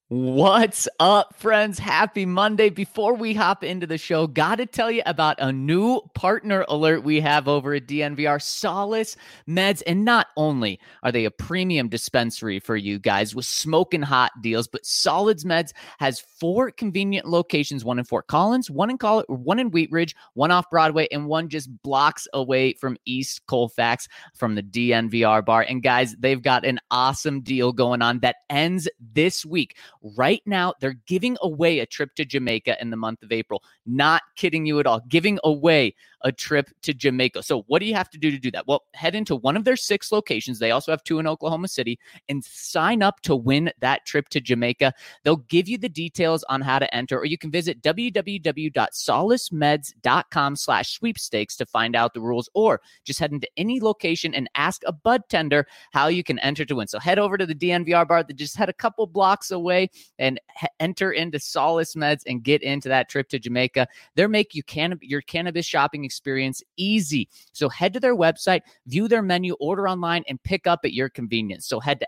What's up, friends? Happy Monday. Before we hop into the show, got to tell you about a new partner alert we have over at DNVR, Solace Meds. And not only are they a premium dispensary for you guys with smoking hot deals, but Solace Meds has 4 convenient locations, one in Fort Collins, one in Wheat Ridge, one off Broadway, and one just blocks away from East Colfax from the DNVR bar. And guys, they've got an awesome deal going on that ends this week. Right now, they're giving away a trip to Jamaica in the month of April. Not kidding you at all. Giving away a trip to Jamaica. So what do you have to do to do that? Well, head into one of their 6 locations. They also have 2 in Oklahoma City and sign up to win that trip to Jamaica. They'll give you the details on how to enter, or you can visit www.solacemeds.com/sweepstakes to find out the rules, or just head into any location and ask a bud tender how you can enter to win. So head over to the DNVR bar that just had a couple blocks away and enter into Solace Meds and get into that trip to Jamaica. They'll make your cannabis shopping experience easy. So head to their website, view their menu, order online, and pick up at your convenience. So head to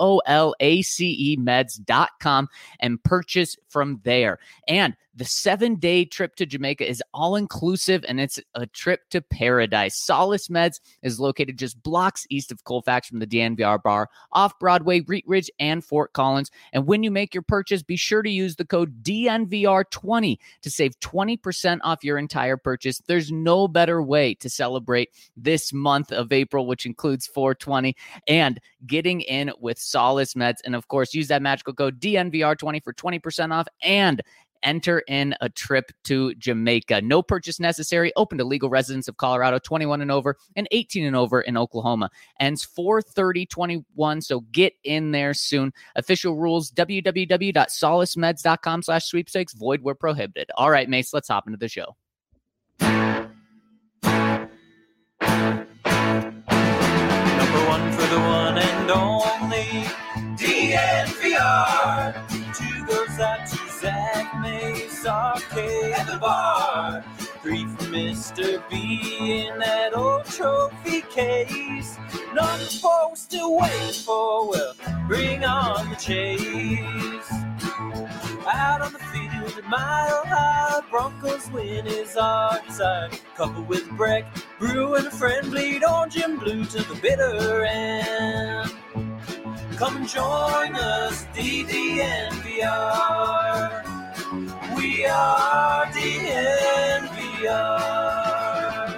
SOLACEmeds.com and purchase from there. And the 7-day trip to Jamaica is all-inclusive, and it's a trip to paradise. Solace Meds is located just blocks east of Colfax from the DNVR bar, off Broadway, Wheat Ridge, and Fort Collins. And when you make your purchase, be sure to use the code DNVR20 to save 20% off your entire purchase. There's no better way to celebrate this month of April, which includes 420, and getting in with Solace Meds. And of course, use that magical code DNVR20 for 20% off and enter in a trip to Jamaica. No purchase necessary. Open to legal residents of Colorado, 21 and over, and 18 and over in Oklahoma. Ends 4/30/21, so get in there soon. Official rules, www.solacemeds.com/sweepstakes. Void where prohibited. All right, Mace, let's hop into the show. Number one for the one and only DNVR. 2 goes out to Zach Mace, Arcade at the bar. 3 for Mr. B in that old trophy case. Number 4 still waiting for, well, bring on the chase. Out on the field at Mile High, Broncos win is our desire. Coupled with Breck, Brew and a friend, bleed orange and blue to the bitter end. Come and join us, DNVR. We are DNVR.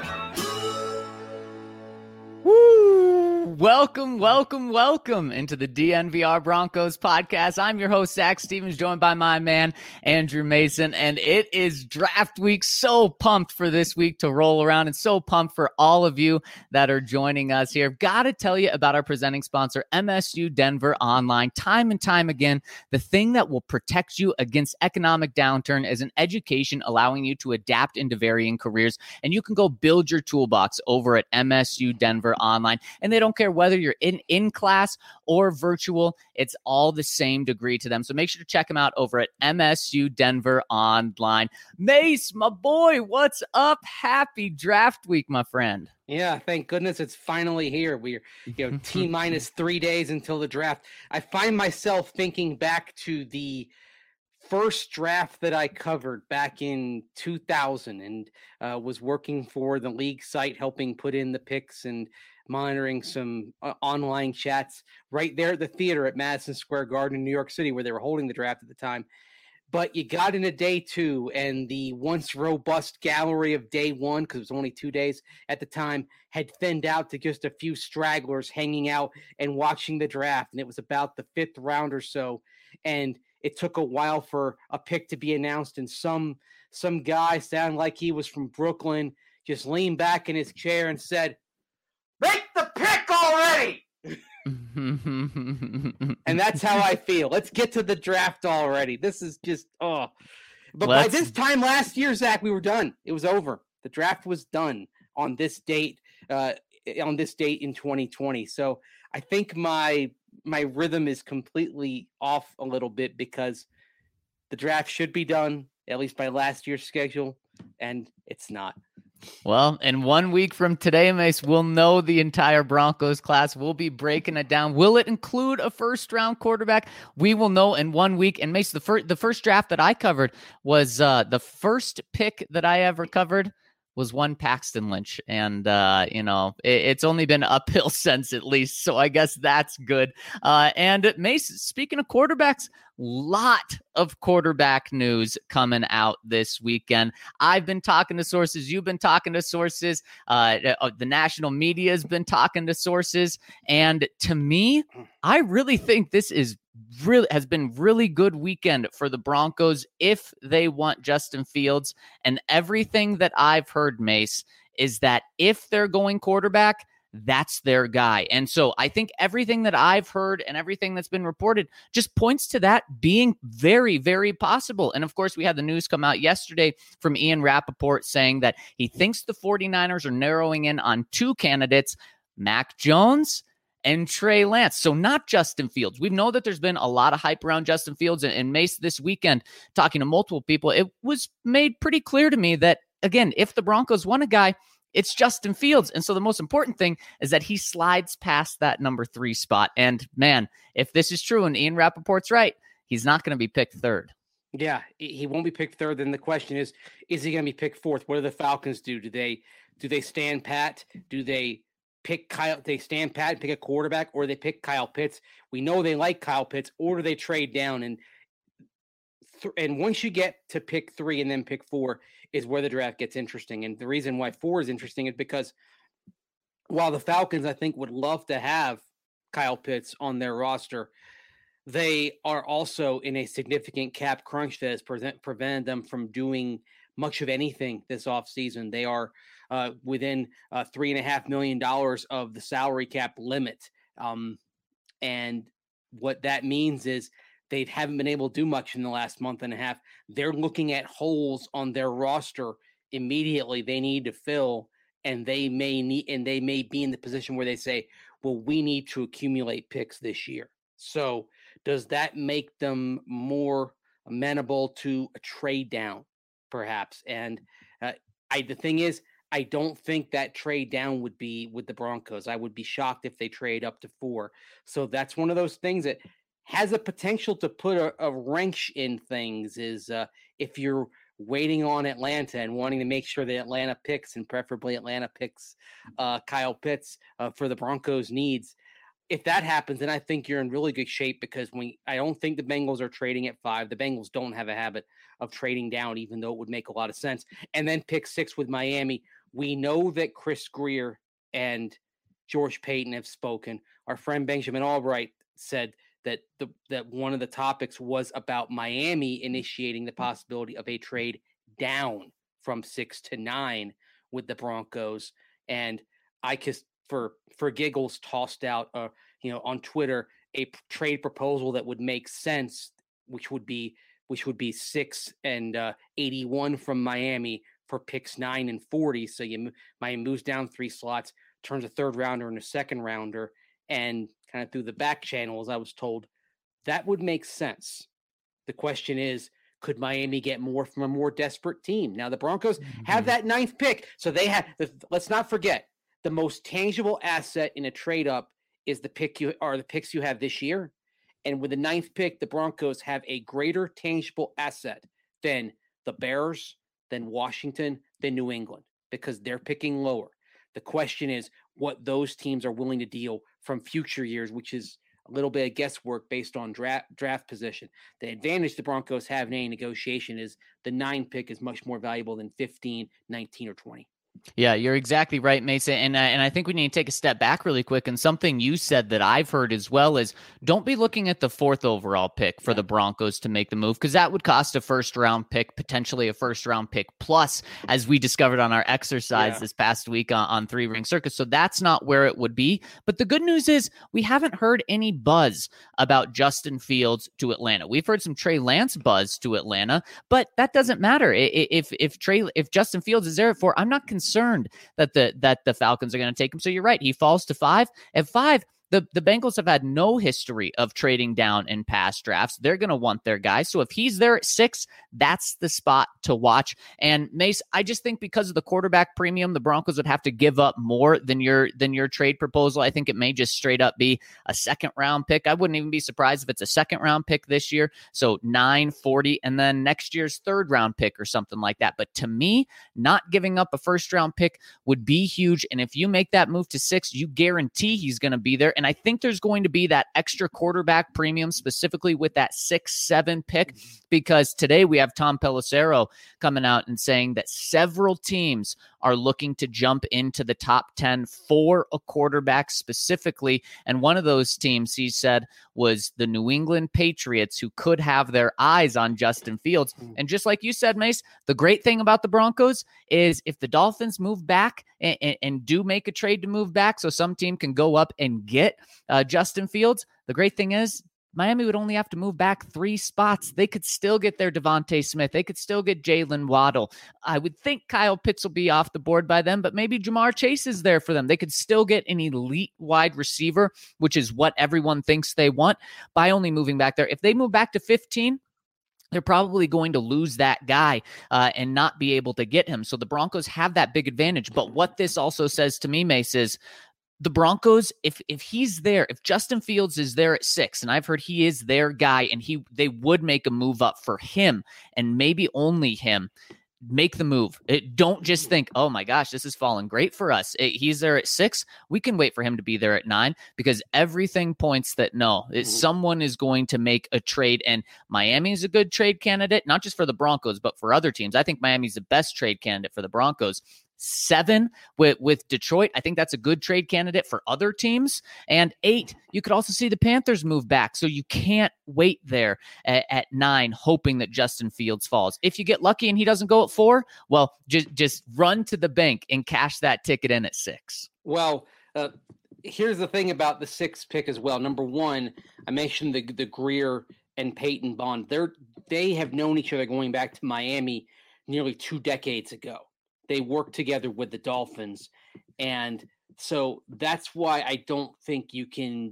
Woo! Welcome into the DNVR Broncos podcast. I'm your host, Zach Stevens, joined by my man, Andrew Mason, and it is draft week. So pumped for this week to roll around, and so pumped for all of you that are joining us here. Got to tell you about our presenting sponsor, MSU Denver Online. Time and time again, the thing that will protect you against economic downturn is an education allowing you to adapt into varying careers, and you can go build your toolbox over at MSU Denver Online, and they don't care whether you're in class or virtual. It's all the same degree to them. So make sure to check them out over at MSU Denver Online. Mace, my boy, what's up? Happy draft week, my friend. Yeah, thank goodness it's finally here. We're, T-minus 3 days until the draft. I find myself thinking back to the first draft that I covered back in 2000 and was working for the league site, helping put in the picks and monitoring some online chats right there at the theater at Madison Square Garden in New York City, where they were holding the draft at the time. But you got into day 2, and the once robust gallery of day 1, because it was only 2 days at the time, had thinned out to just a few stragglers hanging out and watching the draft. And it was about the 5th round or so. And it took a while for a pick to be announced. And some guy sounded like he was from Brooklyn, just leaned back in his chair and said, "Make the pick already!" And that's how I feel. Let's get to the draft already. This is just, But by this time last year, Zach, we were done. It was over. The draft was done on this date in 2020. So I think my rhythm is completely off a little bit, because the draft should be done, at least by last year's schedule, and it's not. Well, in 1 week from today, Mace, we'll know the entire Broncos class. We'll be breaking it down. Will it include a first-round quarterback? We will know in 1 week. And Mace, the first draft that I covered was the first pick that I ever covered was one Paxton Lynch. And, it's only been uphill since, at least. So I guess that's good. And Mace, speaking of quarterbacks, lot of quarterback news coming out this weekend. I've been talking to sources. You've been talking to sources. The national media has been talking to sources. And to me, I really think this has been really good weekend for the Broncos if they want Justin Fields. And everything that I've heard, Mace, is that if they're going quarterback, that's their guy. And so I think everything that I've heard and everything that's been reported just points to that being very, very possible. And of course, we had the news come out yesterday from Ian Rappaport saying that he thinks the 49ers are narrowing in on two candidates, Mac Jones and Trey Lance. So not Justin Fields. We know that there's been a lot of hype around Justin Fields, and Mace this weekend, talking to multiple people, it was made pretty clear to me that, again, if the Broncos want a guy, it's Justin Fields. And so the most important thing is that he slides past that number 3 spot. And man, if this is true and Ian Rappaport's right, he's not going to be picked third. Yeah, he won't be picked third. Then the question is he going to be picked fourth? What do the Falcons do? Do they stand pat? Do they pick Kyle? They stand pat and pick a quarterback, or they pick Kyle Pitts? We know they like Kyle Pitts, or do they trade down? And once you get to pick 3 and then pick 4 is where the draft gets interesting. And the reason why 4 is interesting is because while the Falcons, I think, would love to have Kyle Pitts on their roster, they are also in a significant cap crunch that has prevented them from doing much of anything this offseason. They are within $3.5 million of the salary cap limit. And what that means is they haven't been able to do much in the last month and a half. They're looking at holes on their roster immediately they need to fill, and they may be in the position where they say, well, we need to accumulate picks this year. So does that make them more amenable to a trade down, perhaps? And the thing is, I don't think that trade down would be with the Broncos. I would be shocked if they trade up to 4. So that's one of those things that has a potential to put a wrench in things, is if you're waiting on Atlanta and wanting to make sure that Atlanta picks, and preferably Atlanta picks Kyle Pitts for the Broncos' needs. If that happens, then I think you're in really good shape, because I don't think the Bengals are trading at 5. The Bengals don't have a habit of trading down, even though it would make a lot of sense. And then pick 6 with Miami. We know that Chris Grier and George Payton have spoken. Our friend Benjamin Albright said that one of the topics was about Miami initiating the possibility of a trade down from 6 to 9 with the Broncos. And I just, for giggles, tossed out on Twitter a trade proposal that would make sense, which would be 6 and 81 from Miami for picks 9 and 40. So Miami moves down 3 slots, turns a third rounder into a second rounder, and kind of through the back channels, I was told that would make sense. The question is, could Miami get more from a more desperate team? Now, the Broncos have that 9th pick. So they have, let's not forget, the most tangible asset in a trade up is the picks you have this year. And with the 9th pick, the Broncos have a greater tangible asset than the Bears, than Washington, than New England, because they're picking lower. The question is what those teams are willing to deal from future years, which is a little bit of guesswork based on draft position. The advantage the Broncos have in any negotiation is the 9 pick is much more valuable than 15, 19, or 20. Yeah, you're exactly right, Mason. And I think we need to take a step back really quick. And something you said that I've heard as well is don't be looking at the 4th overall pick for the Broncos to make the move, because that would cost a first-round pick, potentially a first-round pick plus, as we discovered on our exercise this past week on 3 Ring Circus. So that's not where it would be. But the good news is we haven't heard any buzz about Justin Fields to Atlanta. We've heard some Trey Lance buzz to Atlanta, but that doesn't matter. If Justin Fields is there at 4, I'm not concerned that the Falcons are going to take him. So you're right. He falls to 5. At 5, The Bengals have had no history of trading down in past drafts. They're going to want their guy. So if he's there at 6, that's the spot to watch. And Mace, I just think because of the quarterback premium, the Broncos would have to give up more than your trade proposal. I think it may just straight up be a second-round pick. I wouldn't even be surprised if it's a second-round pick this year. So 9, 40, and then next year's third-round pick or something like that. But to me, not giving up a first-round pick would be huge. And if you make that move to 6, you guarantee he's going to be there. And I think there's going to be that extra quarterback premium specifically with that 6-7 pick, because today we have Tom Pelissero coming out and saying that several teams are looking to jump into the top 10 for a quarterback specifically. And one of those teams, he said, was the New England Patriots, who could have their eyes on Justin Fields. And just like you said, Mace, the great thing about the Broncos is if the Dolphins move back and do make a trade to move back so some team can go up and get Justin Fields, the great thing is Miami would only have to move back 3 spots. They could still get their Devontae Smith. They could still get Jalen Waddle. I would think Kyle Pitts will be off the board by then, but maybe Jamar Chase is there for them. They could still get an elite wide receiver, which is what everyone thinks they want, by only moving back there. If they move back to 15, they're probably going to lose that guy and not be able to get him. So the Broncos have that big advantage. But what this also says to me, Mace, is the Broncos, if he's there, if Justin Fields is there at 6, and I've heard he is their guy, and they would make a move up for him and maybe only him, make the move. Don't just think, oh my gosh, this is falling great for us. He's there at 6. We can wait for him to be there at 9, because everything points that someone is going to make a trade. And Miami is a good trade candidate, not just for the Broncos, but for other teams. I think Miami's the best trade candidate for the Broncos. 7 with Detroit, I think that's a good trade candidate for other teams. And 8, you could also see the Panthers move back. So you can't wait there at 9, hoping that Justin Fields falls. If you get lucky and he doesn't go at 4, well, just run to the bank and cash that ticket in at 6. Well, here's the thing about the 6th pick as well. Number one, I mentioned the Grier and Peyton bond. They have known each other going back to Miami nearly 2 decades ago. They work together with the Dolphins. And so that's why I don't think you can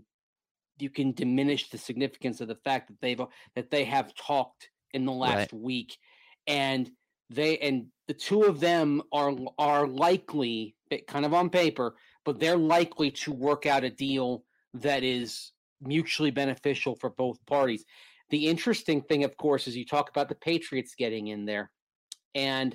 diminish the significance of the fact that they have talked in the last week. And the two of them are likely, kind of on paper, but they're likely to work out a deal that is mutually beneficial for both parties. The interesting thing, of course, is you talk about the Patriots getting in there, and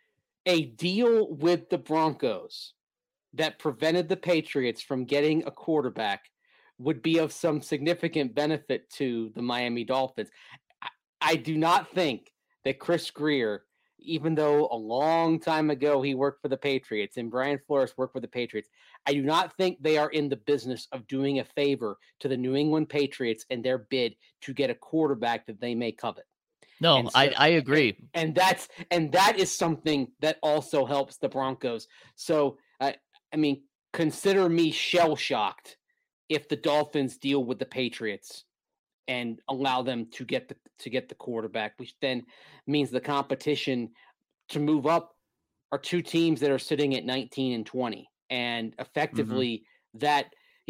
a deal with the Broncos that prevented the Patriots from getting a quarterback would be of some significant benefit to the Miami Dolphins. I do not think that Chris Grier, even though a long time ago he worked for the Patriots and Brian Flores worked for the Patriots, I do not think they are in the business of doing a favor to the New England Patriots in their bid to get a quarterback that they may covet. No, so, I agree. And that is something that also helps the Broncos. So, I mean, consider me shell-shocked if the Dolphins deal with the Patriots and allow them to get the quarterback, which then means the competition to move up are 2 teams that are sitting at 19 and 20. And effectively that,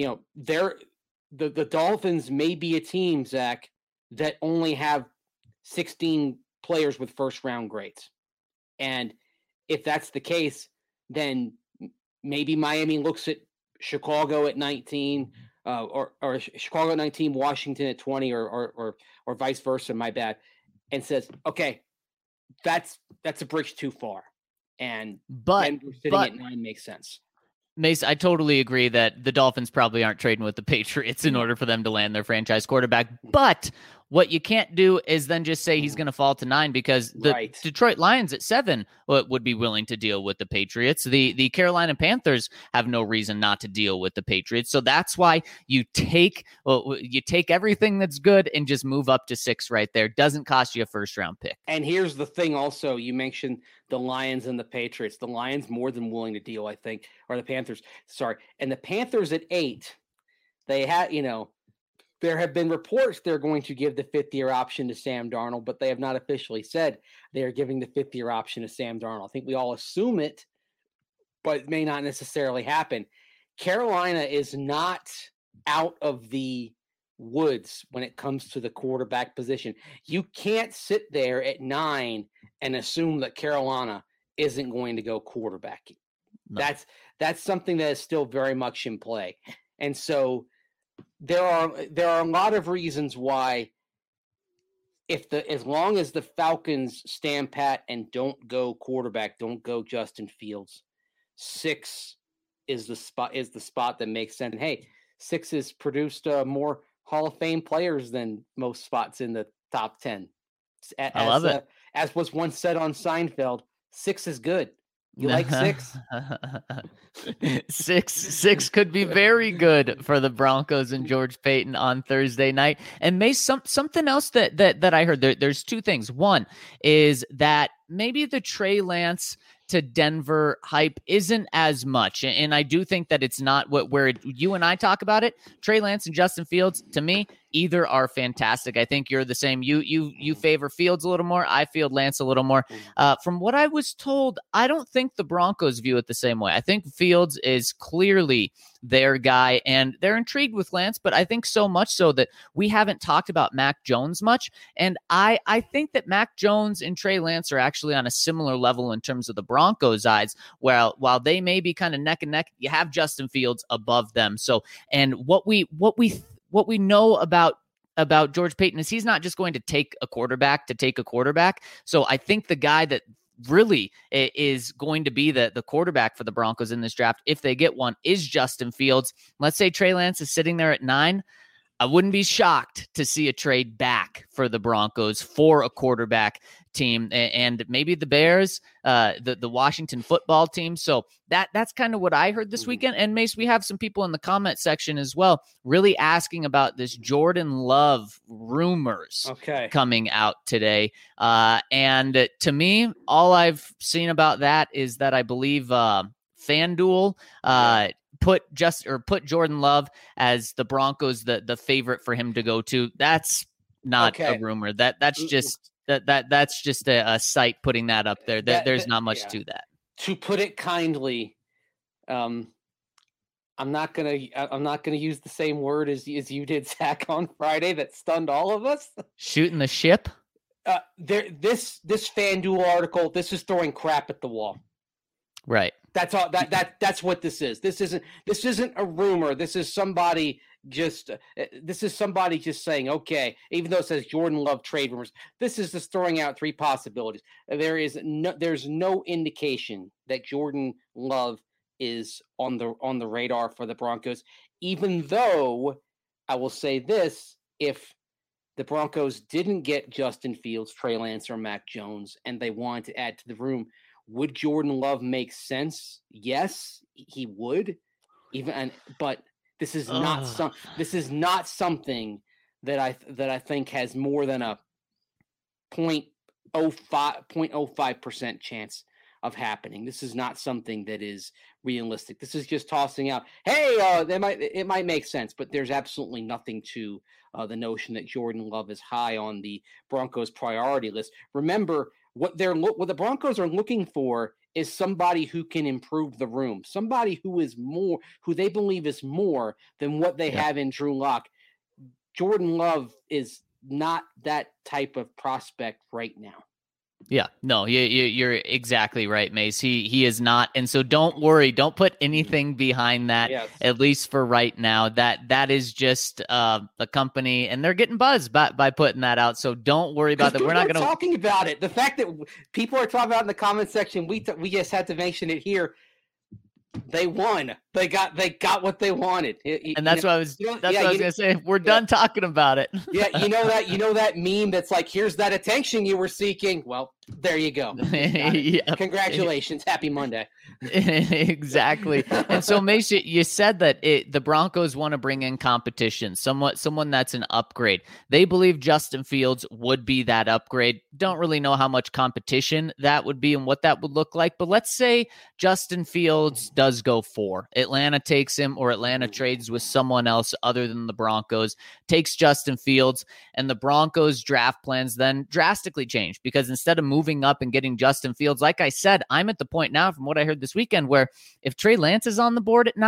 the Dolphins may be a team, Zach, that only have 16 players with first round grades. And if that's the case, then maybe Miami looks at Chicago at 19, or Chicago at 19, Washington at 20, or vice versa, my bad, and says, okay, that's a bridge too far. And Denver sitting at 9 makes sense. Mace, I totally agree that the Dolphins probably aren't trading with the Patriots in order for them to land their franchise quarterback. But what you can't do is then just say he's going to fall to 9, because the Detroit Lions at 7 would be willing to deal with the Patriots. The Carolina Panthers have no reason not to deal with the Patriots. So that's why you take everything that's good and just move up to 6 right there. Doesn't cost you a first round pick. And here's the thing also, you mentioned the Lions and the Patriots. The Lions more than willing to deal, I think, or the Panthers. Sorry. And the Panthers at 8, they had, there have been reports they're going to give the 5th-year option to Sam Darnold, but they have not officially said they are giving the 5th-year option to Sam Darnold. I think we all assume it, but it may not necessarily happen. Carolina is not out of the woods when it comes to the quarterback position. You can't sit there at 9 and assume that Carolina isn't going to go quarterback. No. That's something that is still very much in play. And so there are a lot of reasons why as long as the Falcons stand pat and don't go quarterback, don't go Justin Fields, 6 is the spot that makes sense. And hey, 6 has produced more Hall of Fame players than most spots in the top 10. I love it. As was once said on Seinfeld, 6 is good. You like 6? 6 could be very good for the Broncos and George Paton on Thursday night. And something else that I heard, there's 2 things. One is that maybe the Trey Lance to Denver hype isn't as much. And I do think that it's not where you and I talk about it. Trey Lance and Justin Fields, to me, either are fantastic. I think you're the same. You favor Fields a little more. I feel Lance a little more. From what I was told, I don't think the Broncos view it the same way. I think Fields is clearly their guy, and they're intrigued with Lance, but I think so much so that we haven't talked about Mac Jones much. And I think that Mac Jones and Trey Lance are actually on a similar level in terms of the Broncos' eyes, while they may be kind of neck and neck, you have Justin Fields above them. So, and what we know about George Paton is he's not just going to take a quarterback. So I think the guy that really is going to be the quarterback for the Broncos in this draft, if they get one, is Justin Fields. Let's say Trey Lance is sitting there at 9. I wouldn't be shocked to see a trade back for the Broncos for a quarterback team, and maybe the Bears, the Washington football team. So that's kind of what I heard this weekend. And Mace, we have some people in the comment section as well, really asking about this Jordan Love rumors coming out today. And to me, all I've seen about that is that I believe FanDuel put Jordan Love as the Broncos the favorite for him to go to. That's not a rumor. That's just a site putting that up there. There's not much to that. To put it kindly, I'm not gonna use the same word as you did, Zach, on Friday that stunned all of us. Shooting the ship. This FanDuel article, this is throwing crap at the wall. Right. That's all. That's what this is. This isn't a rumor. This is somebody just saying, okay, even though it says Jordan Love trade rumors, this is just throwing out 3 possibilities. There's no indication that Jordan Love is on the radar for the Broncos, even though I will say this: if the Broncos didn't get Justin Fields, Trey Lance, or Mac Jones, and they wanted to add to the room, would Jordan Love make sense? Yes, he would. But this is not something that I think has more than a 0.05% chance of happening. This is not something that is realistic. This is just tossing out, hey, it might make sense, but there's absolutely nothing to the notion that Jordan Love is high on the Broncos priority list. Remember, what the Broncos are looking for is somebody who can improve the room, somebody who they believe is more than what they have in Drew Lock. Jordan Love is not that type of prospect right now. Yeah, no, you're exactly right, Mace. He is not, and so don't worry. Don't put anything behind that. Yes. At least for right now. That is just a company, and they're getting buzzed by putting that out. So don't worry about that. We're not going to talking about it. The fact that people are talking about it in the comment section, we just had to mention it here. They won. They got what they wanted. And that's what I was going to say. We're done talking about it. Yeah, you know that meme that's like, here's that attention you were seeking. Well, there you go. Congratulations. Happy Monday. Exactly. And so, Mace, you said that the Broncos want to bring in competition, someone that's an upgrade. They believe Justin Fields would be that upgrade. Don't really know how much competition that would be and what that would look like. But let's say Justin Fields does go 4. Atlanta takes him, or Atlanta trades with someone else other than the Broncos, takes Justin Fields, and the Broncos draft plans then drastically change, because instead of moving up and getting Justin Fields, like I said, I'm at the point now from what I heard this weekend where if Trey Lance is on the board at 9,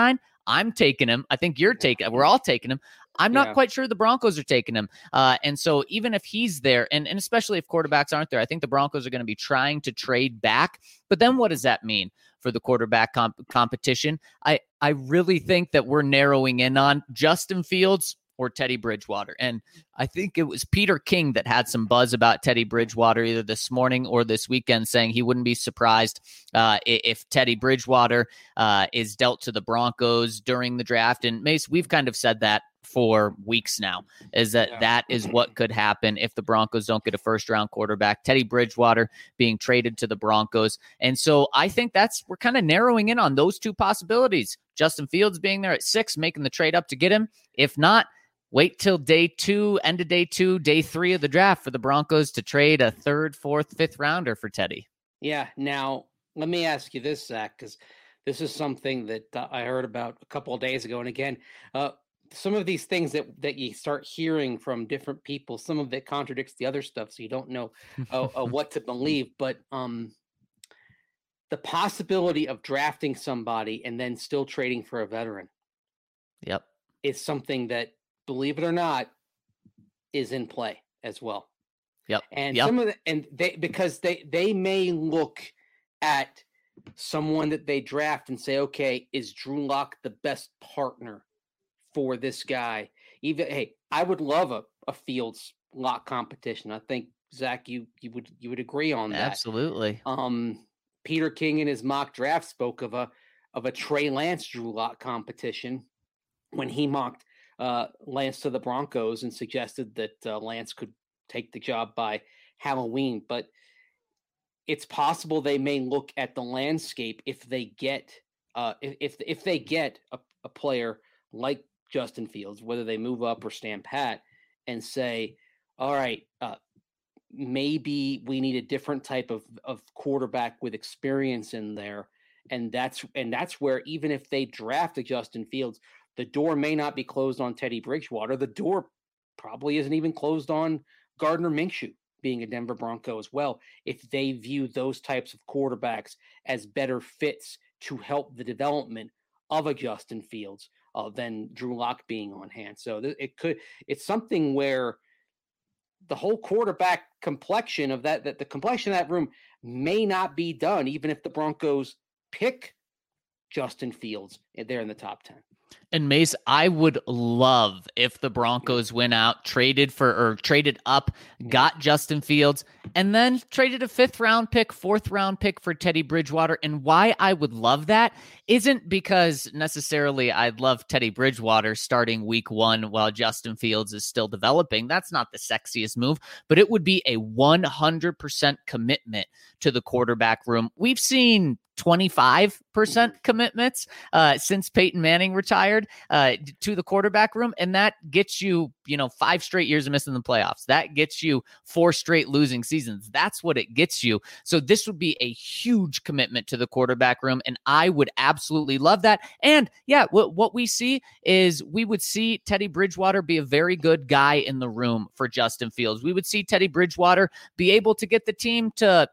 I'm taking him. I think you're taking. We're all taking him. I'm not quite sure the Broncos are taking him. And so even if he's there, and especially if quarterbacks aren't there, I think the Broncos are going to be trying to trade back. But then what does that mean for the quarterback competition? I really think that we're narrowing in on Justin Fields or Teddy Bridgewater. And I think it was Peter King that had some buzz about Teddy Bridgewater either this morning or this weekend, saying he wouldn't be surprised if Teddy Bridgewater is dealt to the Broncos during the draft. And Mace, we've kind of said that for weeks now, is that is what could happen if the Broncos don't get a first-round quarterback. Teddy Bridgewater being traded to the Broncos. And so I think we're kind of narrowing in on those two possibilities. Justin Fields being there at 6, making the trade up to get him. If not, wait till day 2, end of day 2, day 3 of the draft for the Broncos to trade a 3rd, 4th, 5th rounder for Teddy. Yeah. Now, let me ask you this, Zach, because this is something that I heard about a couple of days ago. And again, some of these things that you start hearing from different people, some of it contradicts the other stuff, so you don't know what to believe. But the possibility of drafting somebody and then still trading for a veteran, is something that, believe it or not, is in play as well. And some of because they may look at someone that they draft and say, okay, is Drew Lock the best partner for this guy? I would love a Fields Lock competition. I think, Zach, you would agree on that. Absolutely. Peter King in his mock draft spoke of a Trey Lance Drew Lock competition when he mocked Lance to the Broncos and suggested that Lance could take the job by Halloween. But it's possible they may look at the landscape if they get if they get a player like Justin Fields, whether they move up or stand pat, and say, all right, maybe we need a different type of quarterback with experience in there. And that's where, even if they draft a Justin Fields, the door may not be closed on Teddy Bridgewater. The door probably isn't even closed on Gardner Minshew being a Denver Bronco as well, if they view those types of quarterbacks as better fits to help the development of a Justin Fields than Drew Lock being on hand. So it's something where the whole quarterback complexion of that the complexion of that room may not be done, even if the Broncos pick Justin Fields there in the top 10. And Mace, I would love if the Broncos went out, traded up, got Justin Fields, and then traded a 5th round pick, 4th round pick for Teddy Bridgewater. And why I would love that isn't because necessarily I'd love Teddy Bridgewater starting week 1 while Justin Fields is still developing. That's not the sexiest move, but it would be a 100% commitment to the quarterback room. We've seen 25% commitments since Peyton Manning retired to the quarterback room. And that gets you, 5 straight years of missing the playoffs. That gets you 4 straight losing seasons. That's what it gets you. So this would be a huge commitment to the quarterback room. And I would absolutely love that. And what we see is we would see Teddy Bridgewater be a very good guy in the room for Justin Fields. We would see Teddy Bridgewater be able to get the team to,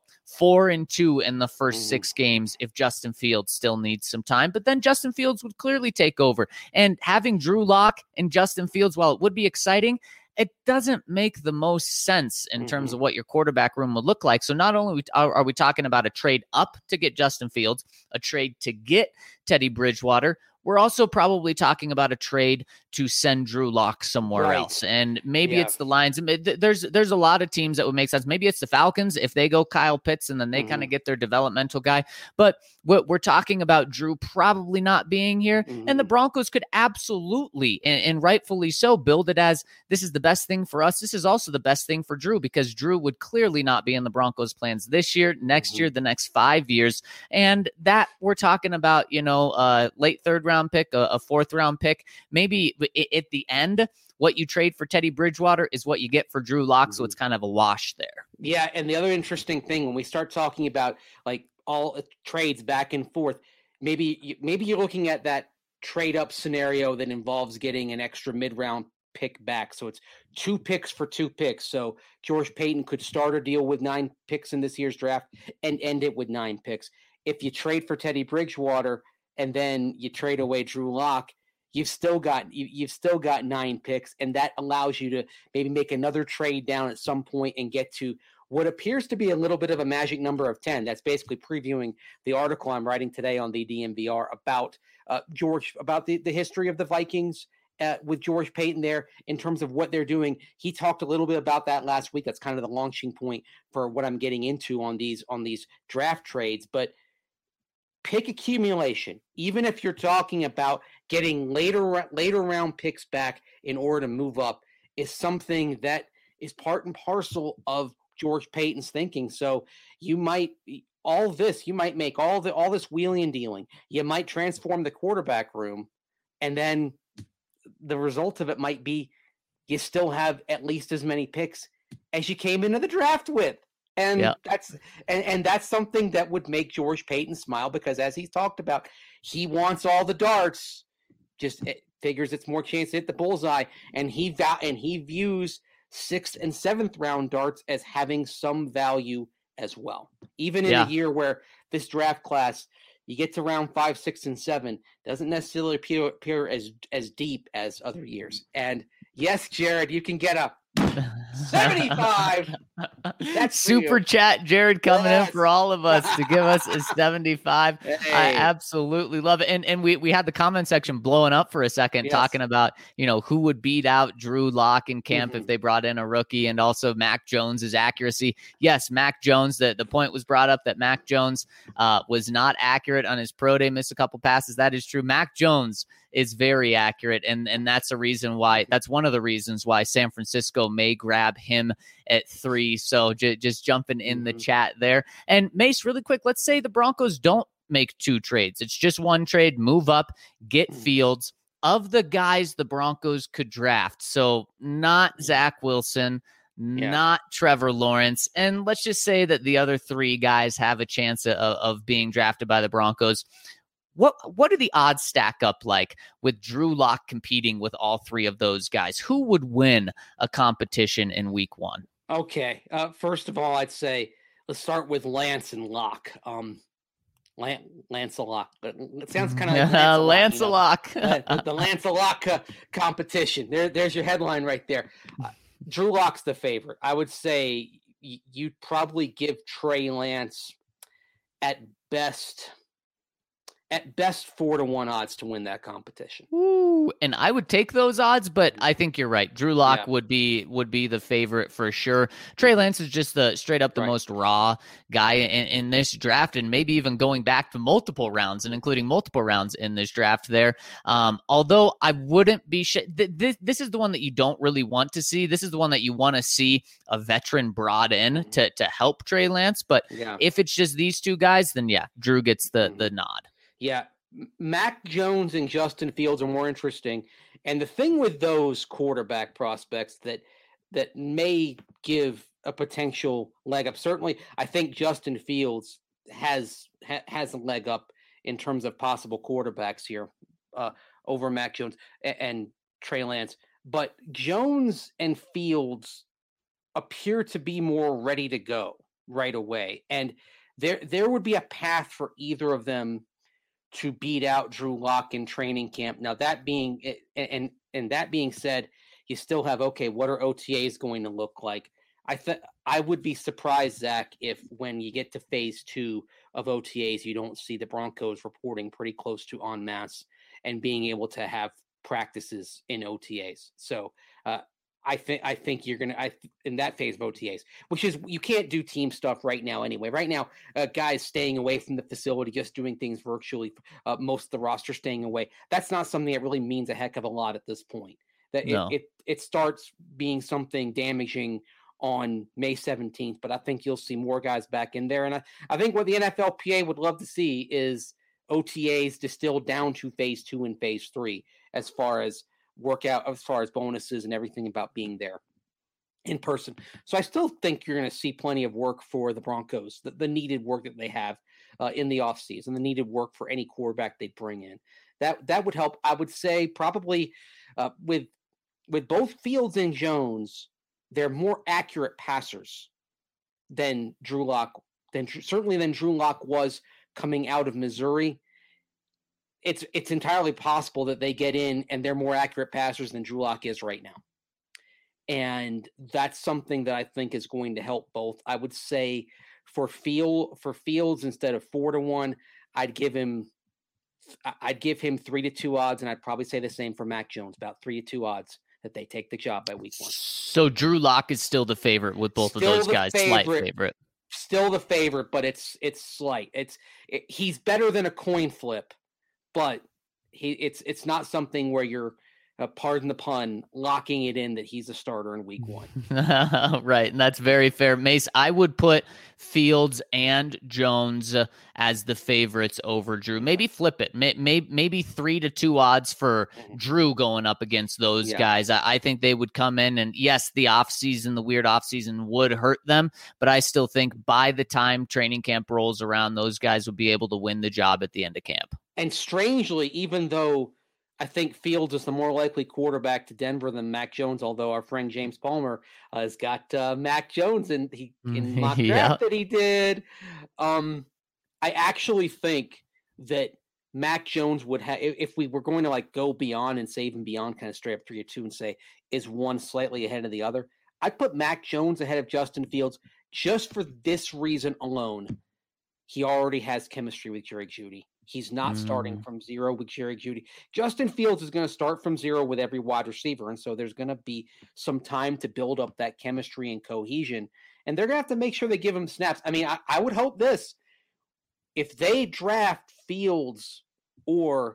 4-2 in the first 6 games if Justin Fields still needs some time. But then Justin Fields would clearly take over. And having Drew Lock and Justin Fields, while it would be exciting, it doesn't make the most sense in terms of what your quarterback room would look like. So not only are we talking about a trade up to get Justin Fields, a trade to get Teddy Bridgewater, we're also probably talking about a trade to send Drew Lock somewhere else. And maybe it's the Lions. There's a lot of teams that would make sense. Maybe it's the Falcons if they go Kyle Pitts and then they kind of get their developmental guy. But we're talking about Drew probably not being here. And the Broncos could absolutely, and rightfully so, build it as this is the best thing for us. This is also the best thing for Drew, because Drew would clearly not be in the Broncos' plans this year, next year, the next 5 years. And that we're talking about, late 3rd round pick, a 4th round pick, maybe at the end, what you trade for Teddy Bridgewater is what you get for Drew Lock. So it's kind of a wash there. Yeah. And the other interesting thing, when we start talking about like all trades back and forth, maybe you're looking at that trade up scenario that involves getting an extra mid-round pick back. So it's 2 picks for 2 picks. So George Paton could start a deal with 9 picks in this year's draft and end it with 9 picks. If you trade for Teddy Bridgewater, and then you trade away Drew Lock, you've still got 9 picks, and that allows you to maybe make another trade down at some point and get to what appears to be a little bit of a magic number of 10. That's basically previewing the article I'm writing today on the DNVR about about the history of the Vikings with George Paton there in terms of what they're doing. He talked a little bit about that last week. That's kind of the launching point for what I'm getting into on these draft trades. But pick accumulation, even if you're talking about getting later round picks back in order to move up, is something that is part and parcel of George Paton's thinking. So you might make all this wheeling and dealing. You might transform the quarterback room, and then the result of it might be you still have at least as many picks as you came into the draft with. And that's something that would make George Paton smile, because as he's talked about, he wants all the darts. Just figures it's more chance to hit the bullseye, and he views 6th and 7th round darts as having some value as well. Even in a year where this draft class, you get to round 5, 6, and 7, doesn't necessarily appear as deep as other years. And yes, Jared, you can get a 75. That's super chat, Jared, coming in for all of us to give us a 75. Hey. I absolutely love it. And we had the comment section blowing up for a second, talking about, who would beat out Drew Lock in camp if they brought in a rookie, and also Mac Jones's accuracy. Yes, Mac Jones, the point was brought up that Mac Jones was not accurate on his pro day, missed a couple passes. That is true. Mac Jones is very accurate, and that's one of the reasons why San Francisco may grab him at 3. So just jumping in the chat there. And Mace, really quick, let's say the Broncos don't make 2 trades. It's just 1 trade, move up, get Fields. Of the guys the Broncos could draft, so not Zach Wilson, not Trevor Lawrence, and let's just say that the other 3 guys have a chance of being drafted by the Broncos. What do the odds stack up like with Drew Lock competing with all 3 of those guys? Who would win a competition in week 1? Okay. First of all, I'd say let's start with Lance and Lock. Lance-a-Lock. It sounds kind of like Lance-a-Lock. The Lance-a-Lock competition. There's your headline right there. Drew Lock's the favorite. I would say you'd probably give Trey Lance at best 4-1 odds to win that competition. Ooh, and I would take those odds, but I think you're right. Drew Lock would be the favorite for sure. Trey Lance is just the straight up the most raw guy in this draft, and maybe even going back to multiple rounds and including multiple rounds in this draft there. Although I wouldn't be this is the one that you don't really want to see. This is the one that you want to see a veteran brought in to help Trey Lance. But if it's just these 2 guys, then Drew gets the nod. Yeah, Mac Jones and Justin Fields are more interesting. And the thing with those quarterback prospects that may give a potential leg up, certainly I think Justin Fields has a leg up in terms of possible quarterbacks here over Mac Jones and Trey Lance. But Jones and Fields appear to be more ready to go right away. And there would be a path for either of them to beat out Drew Lock in training camp. Now that being that being said, you still have what are OTAs going to look like? I would be surprised, Zach, if when you get to phase 2 of OTAs, you don't see the Broncos reporting pretty close to en masse and being able to have practices in OTAs. So I think you're going to in that phase of OTAs, which is you can't do team stuff right now anyway. Right now, guys staying away from the facility, just doing things virtually, most of the roster staying away. That's not something that really means a heck of a lot at this point. That it starts being something damaging on May 17th, but I think you'll see more guys back in there. And I think what the NFLPA would love to see is OTAs distilled down to phase 2 and phase 3 as far as workout, as far as bonuses and everything about being there in person. So I still think you're going to see plenty of work for the Broncos, the needed work that they have in the offseason, the needed work for any quarterback they bring in. That would help. I would say probably with both Fields and Jones, they're more accurate passers than Drew Lock, certainly than Drew Lock was coming out of Missouri. it's entirely possible that they get in and they're more accurate passers than Drew Lock is right now. And that's something that I think is going to help both. I would say for Fields, instead of 4-1, I'd give him 3-2 odds, and I'd probably say the same for Mac Jones, about 3-2 odds that they take the job by week 1. So Drew Lock is still the favorite with both of those guys. Slight favorite. Still the favorite, but it's slight. He's better than a coin flip, but it's not something where you're, pardon the pun, locking it in that he's a starter in week 1. Right, and that's very fair. Mace, I would put Fields and Jones as the favorites over Drew. Maybe flip it. Maybe 3-2 odds for Drew going up against those guys. I think they would come in, and yes, the weird offseason would hurt them, but I still think by the time training camp rolls around, those guys will be able to win the job at the end of camp. And strangely, even though I think Fields is the more likely quarterback to Denver than Mac Jones, although our friend James Palmer has got Mac Jones in mock draft that he did. I actually think that Mac Jones would have, if we were going to like go beyond and save and beyond, kind of straight up 3-2 and say, is one slightly ahead of the other? I'd put Mac Jones ahead of Justin Fields just for this reason alone. He already has chemistry with Jerry Jeudy. He's not starting from zero with Jerry Jeudy. Justin Fields is going to start from zero with every wide receiver, and so there's going to be some time to build up that chemistry and cohesion, and they're going to have to make sure they give him snaps. I mean, I would hope this. If they draft Fields or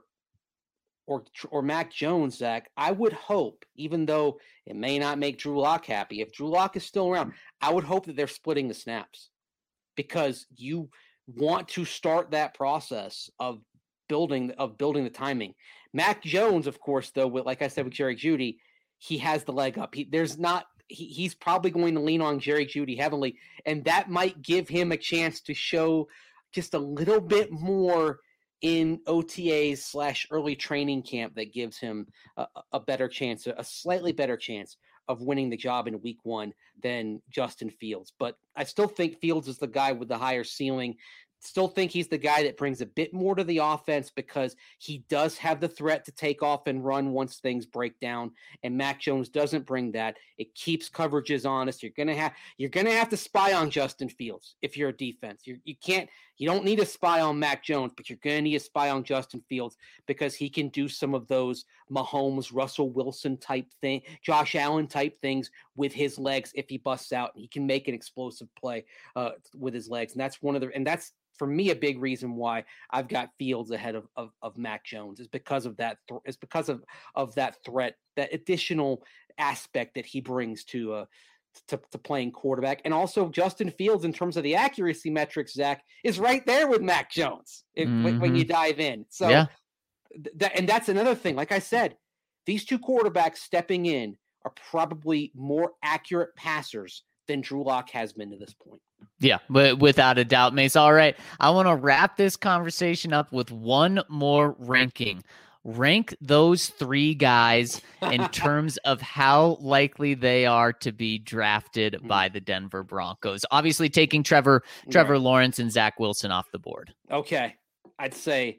Mac Jones, Zach, I would hope, even though it may not make Drew Lock happy, if Drew Lock is still around, I would hope that they're splitting the snaps, because you want to start that process of building the timing. Mac Jones, of course, though, like I said with Jerry Jeudy, he has the leg up. He's probably going to lean on Jerry Jeudy heavily, and that might give him a chance to show just a little bit more in OTAs / early training camp that gives him a better chance, a slightly better chance of winning the job in week 1 than Justin Fields. But I still think Fields is the guy with the higher ceiling. Still think he's the guy that brings a bit more to the offense because he does have the threat to take off and run once things break down. And Mac Jones doesn't bring that. It keeps coverages honest. You're gonna have to spy on Justin Fields if you're a defense. You don't need to spy on Mac Jones, but you're gonna need to spy on Justin Fields because he can do some of those Mahomes, Russell Wilson type thing, Josh Allen type things with his legs if he busts out. He can make an explosive play with his legs, and that's for me, a big reason why I've got Fields ahead of Mac Jones is because of that. It's because of that threat, that additional aspect that he brings to playing quarterback, and also Justin Fields in terms of the accuracy metrics. Zach is right there with Mac Jones when you dive in. So, and that's another thing. Like I said, these two quarterbacks stepping in are probably more accurate passers than Drew Lock has been to this point. Yeah, but without a doubt, Mace. All right, I want to wrap this conversation up with one more ranking. Rank those 3 guys in terms of how likely they are to be drafted by the Denver Broncos. Obviously, taking Trevor Lawrence and Zach Wilson off the board. Okay, I'd say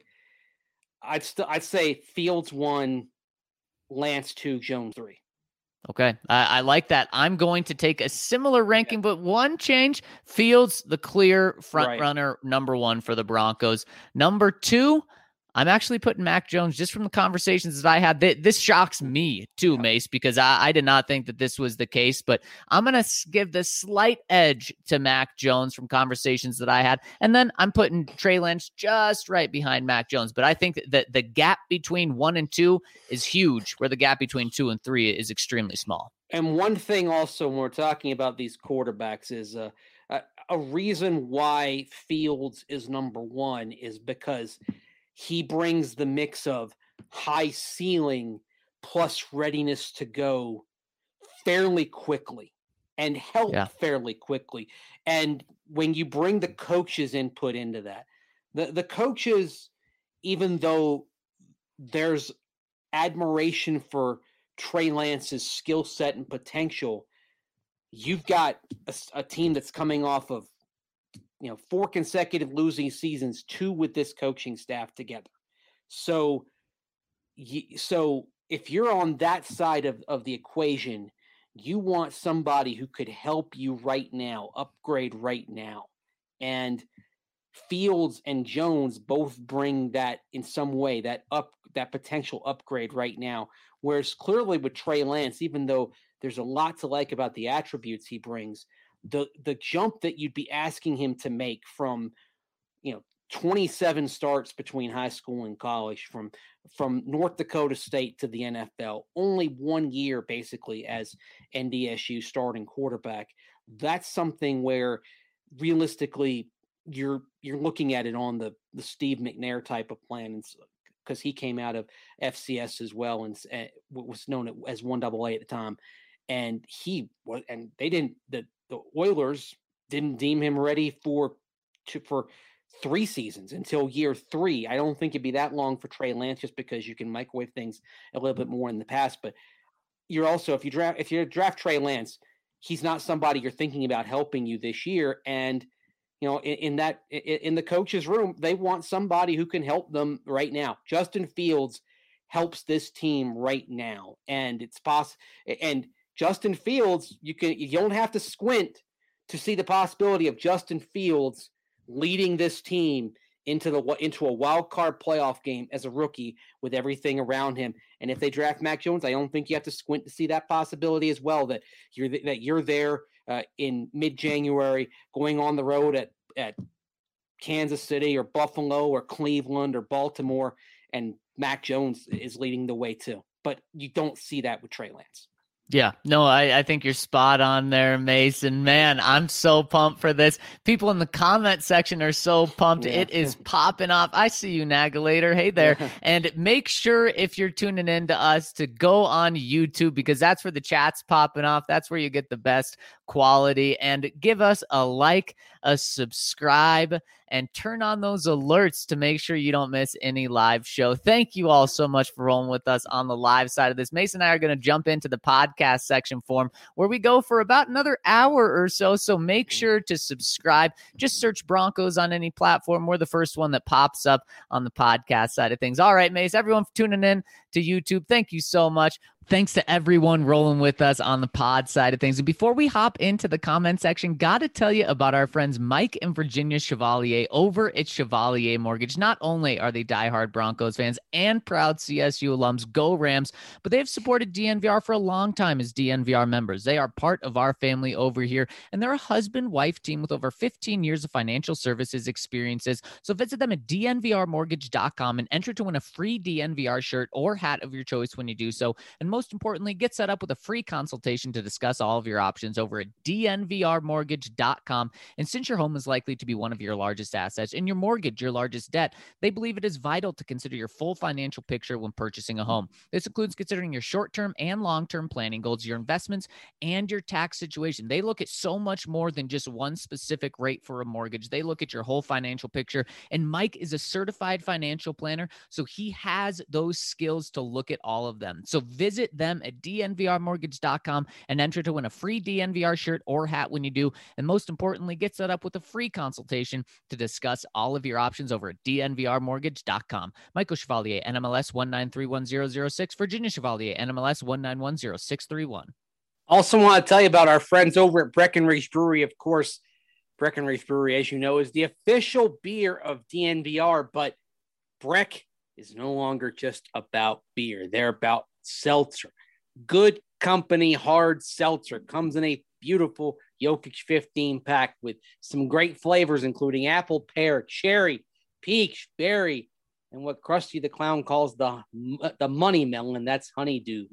Fields 1, Lance 2, Jones 3. Okay, I like that. I'm going to take a similar ranking, but one change. Fields, the clear front runner, number 1 for the Broncos. Number 2, I'm actually putting Mac Jones just from the conversations that I had. This shocks me too, Mace, because I did not think that this was the case, but I'm going to give the slight edge to Mac Jones from conversations that I had. And then I'm putting Trey Lance just right behind Mac Jones. But I think that the gap between 1 and 2 is huge, where the gap between 2 and 3 is extremely small. And one thing also when we're talking about these quarterbacks is a reason why Fields is number 1 is because he brings the mix of high ceiling plus readiness to go fairly quickly and help fairly quickly. And when you bring the coaches' input into that, the coaches, even though there's admiration for Trey Lance's skill set and potential, you've got a team that's coming off of 4 consecutive losing seasons, 2 with this coaching staff together. So if you're on that side of the equation, you want somebody who could help you right now, upgrade right now. And Fields and Jones both bring that in some way, that potential upgrade right now. Whereas clearly with Trey Lance, even though there's a lot to like about the attributes he brings, the jump that you'd be asking him to make from, 27 starts between high school and college, from North Dakota State to the NFL, only 1 year basically as NDSU starting quarterback. That's something where realistically you're looking at it on the Steve McNair type of plan, because he came out of FCS as well and was known as 1AA at the time, and the Oilers didn't deem him ready for 3 seasons until year 3. I don't think it'd be that long for Trey Lance, just because you can microwave things a little bit more in the past. But you're also, if you draft Trey Lance, he's not somebody you're thinking about helping you this year. And in the coach's room, they want somebody who can help them right now. Justin Fields helps this team right now, and it's possible. And Justin Fields, you don't have to squint to see the possibility of Justin Fields leading this team into a wild card playoff game as a rookie with everything around him. And if they draft Mac Jones, I don't think you have to squint to see that possibility as well, that you're there in mid-January going on the road at Kansas City or Buffalo or Cleveland or Baltimore, and Mac Jones is leading the way too. But you don't see that with Trey Lance. Yeah, no, I think you're spot on there, Mason. Man, I'm so pumped for this. People in the comment section are so pumped. Yeah. It is popping off. I see you, Nagalator. Hey there. Yeah. And make sure, if you're tuning in to us, to go on YouTube, because that's where the chat's popping off. That's where you get the best quality. And give us a like, a subscribe, and turn on those alerts to make sure you don't miss any live show. Thank you all so much for rolling with us on the live side of this. Mason and I are going to jump into the podcast section form, where we go for about another hour or so. So make sure to subscribe. Just search Broncos on any platform. We're the first one that pops up on the podcast side of things. All right, Mace, everyone for tuning in to YouTube, thank you so much. Thanks to everyone rolling with us on the pod side of things. And before we hop into the comment section, got to tell you about our friends Mike and Virginia Chevalier over at Chevalier Mortgage. Not only are they diehard Broncos fans and proud CSU alums, go Rams, but they have supported DNVR for a long time as DNVR members. They are part of our family over here, and they're a husband-wife team with over 15 years of financial services experiences. So visit them at dnvrmortgage.com and enter to win a free DNVR shirt or hat of your choice when you do so. And most importantly, get set up with a free consultation to discuss all of your options over at dnvrmortgage.com. And since your home is likely to be one of your largest assets and your mortgage your largest debt, they believe it is vital to consider your full financial picture when purchasing a home. This includes considering your short-term and long-term planning goals, your investments, and your tax situation. They look at so much more than just one specific rate for a mortgage. They look at your whole financial picture, and Mike is a certified financial planner, so he has those skills to look at all of them. So visit them at dnvrmortgage.com and enter to win a free DNVR shirt or hat when you do. And most importantly, get set up with a free consultation to discuss all of your options over at dnvrmortgage.com. Michael Chevalier, NMLS 1931006, Virginia Chevalier, NMLS 1910631. Also want to tell you about our friends over at Breckenridge Brewery. Of course, Breckenridge Brewery, as you know, is the official beer of DNVR, but Breck is no longer just about beer. They're about seltzer. Good company hard seltzer comes in a beautiful Jokic 15 pack with some great flavors, including apple, pear, cherry, peach, berry, and what Krusty the Clown calls the money melon. That's honeydew.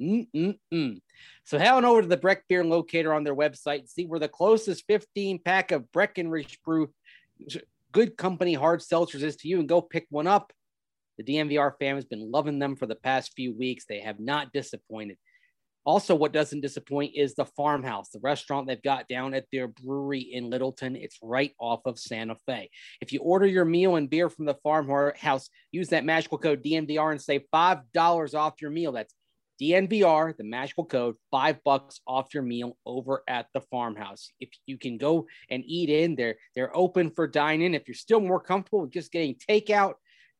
So head on over to the Breck Beer Locator on their website and see where the closest 15 pack of Breckenridge Brew Good Company hard seltzers is to you, and go pick one up. The DNVR fan has been loving them for the past few weeks. They have not disappointed. Also, what doesn't disappoint is the Farmhouse, the restaurant they've got down at their brewery in Littleton. It's right off of Santa Fe. If you order your meal and beer from the Farmhouse, use that magical code DNVR and save $5 off your meal. That's DNVR, the magical code, $5 off your meal over at the Farmhouse. If you can go and eat in, they're open for dine-in. If you're still more comfortable with just getting takeout,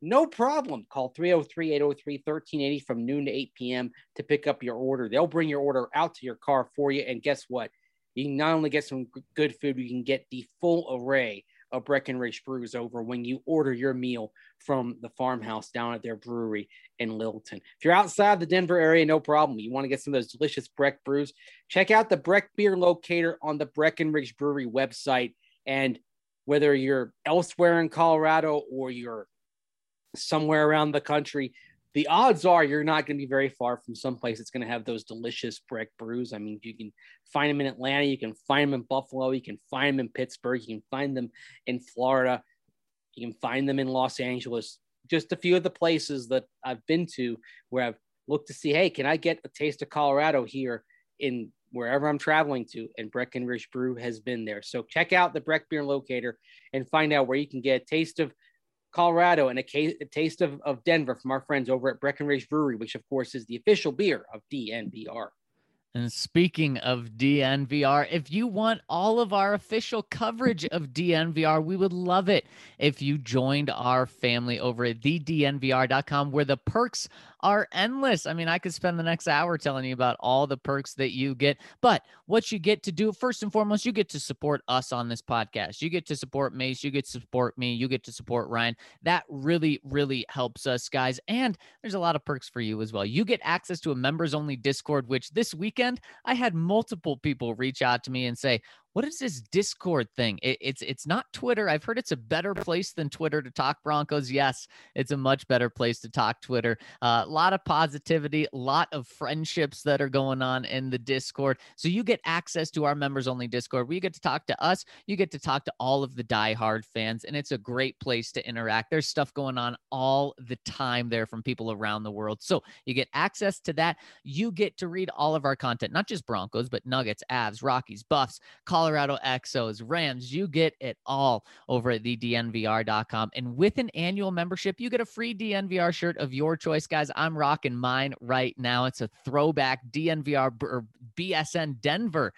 no problem. Call 303-803-1380 from noon to 8 p.m. to pick up your order. They'll bring your order out to your car for you. And guess what? You can not only get some good food, you can get the full array of Breckenridge brews over when you order your meal from the farmhouse down at their brewery in Littleton. If you're outside the Denver area, no problem. You want to get some of those delicious Breck brews, check out the Breck Beer Locator on the Breckenridge Brewery website. And whether you're elsewhere in Colorado or you're somewhere around the country, the odds are you're not going to be very far from someplace that's going to have those delicious Breck brews. I mean, you can find them in Atlanta, you can find them in Buffalo, you can find them in Pittsburgh, you can find them in Florida, you can find them in Los Angeles. Just a few of the places that I've been to where I've looked to see, hey, can I get a taste of Colorado here in wherever I'm traveling to? And Breckenridge Brew has been there. So check out the Breck Beer Locator and find out where you can get a taste of Colorado and a taste of Denver from our friends over at Breckenridge Brewery, which of course is the official beer of DNVR. And speaking of DNVR, if you want all of our official coverage of DNVR, we would love it if you joined our family over at thednvr.com, where the perks are endless. I mean, I could spend the next hour telling you about all the perks that you get, but what you get to do, first and foremost, you get to support us on this podcast. You get to support Mace. You get to support me. You get to support Ryan. That really, really helps us, guys. And there's a lot of perks for you as well. You get access to a members-only Discord, which this weekend, I had multiple people reach out to me and say, what is this Discord thing? It's not Twitter. I've heard it's a better place than Twitter to talk Broncos. Yes, it's a much better place to talk Twitter. A lot of positivity, a lot of friendships that are going on in the Discord. So you get access to our members-only Discord. We get to talk to us. You get to talk to all of the diehard fans, and it's a great place to interact. There's stuff going on all the time there from people around the world. So you get access to that. You get to read all of our content, not just Broncos, but Nuggets, Avs, Rockies, Buffs, Colorado Exos, Rams. You get it all over at thednvr.com. And with an annual membership, you get a free DNVR shirt of your choice, guys. I'm rocking mine right now. It's a throwback DNVR or BSN Denver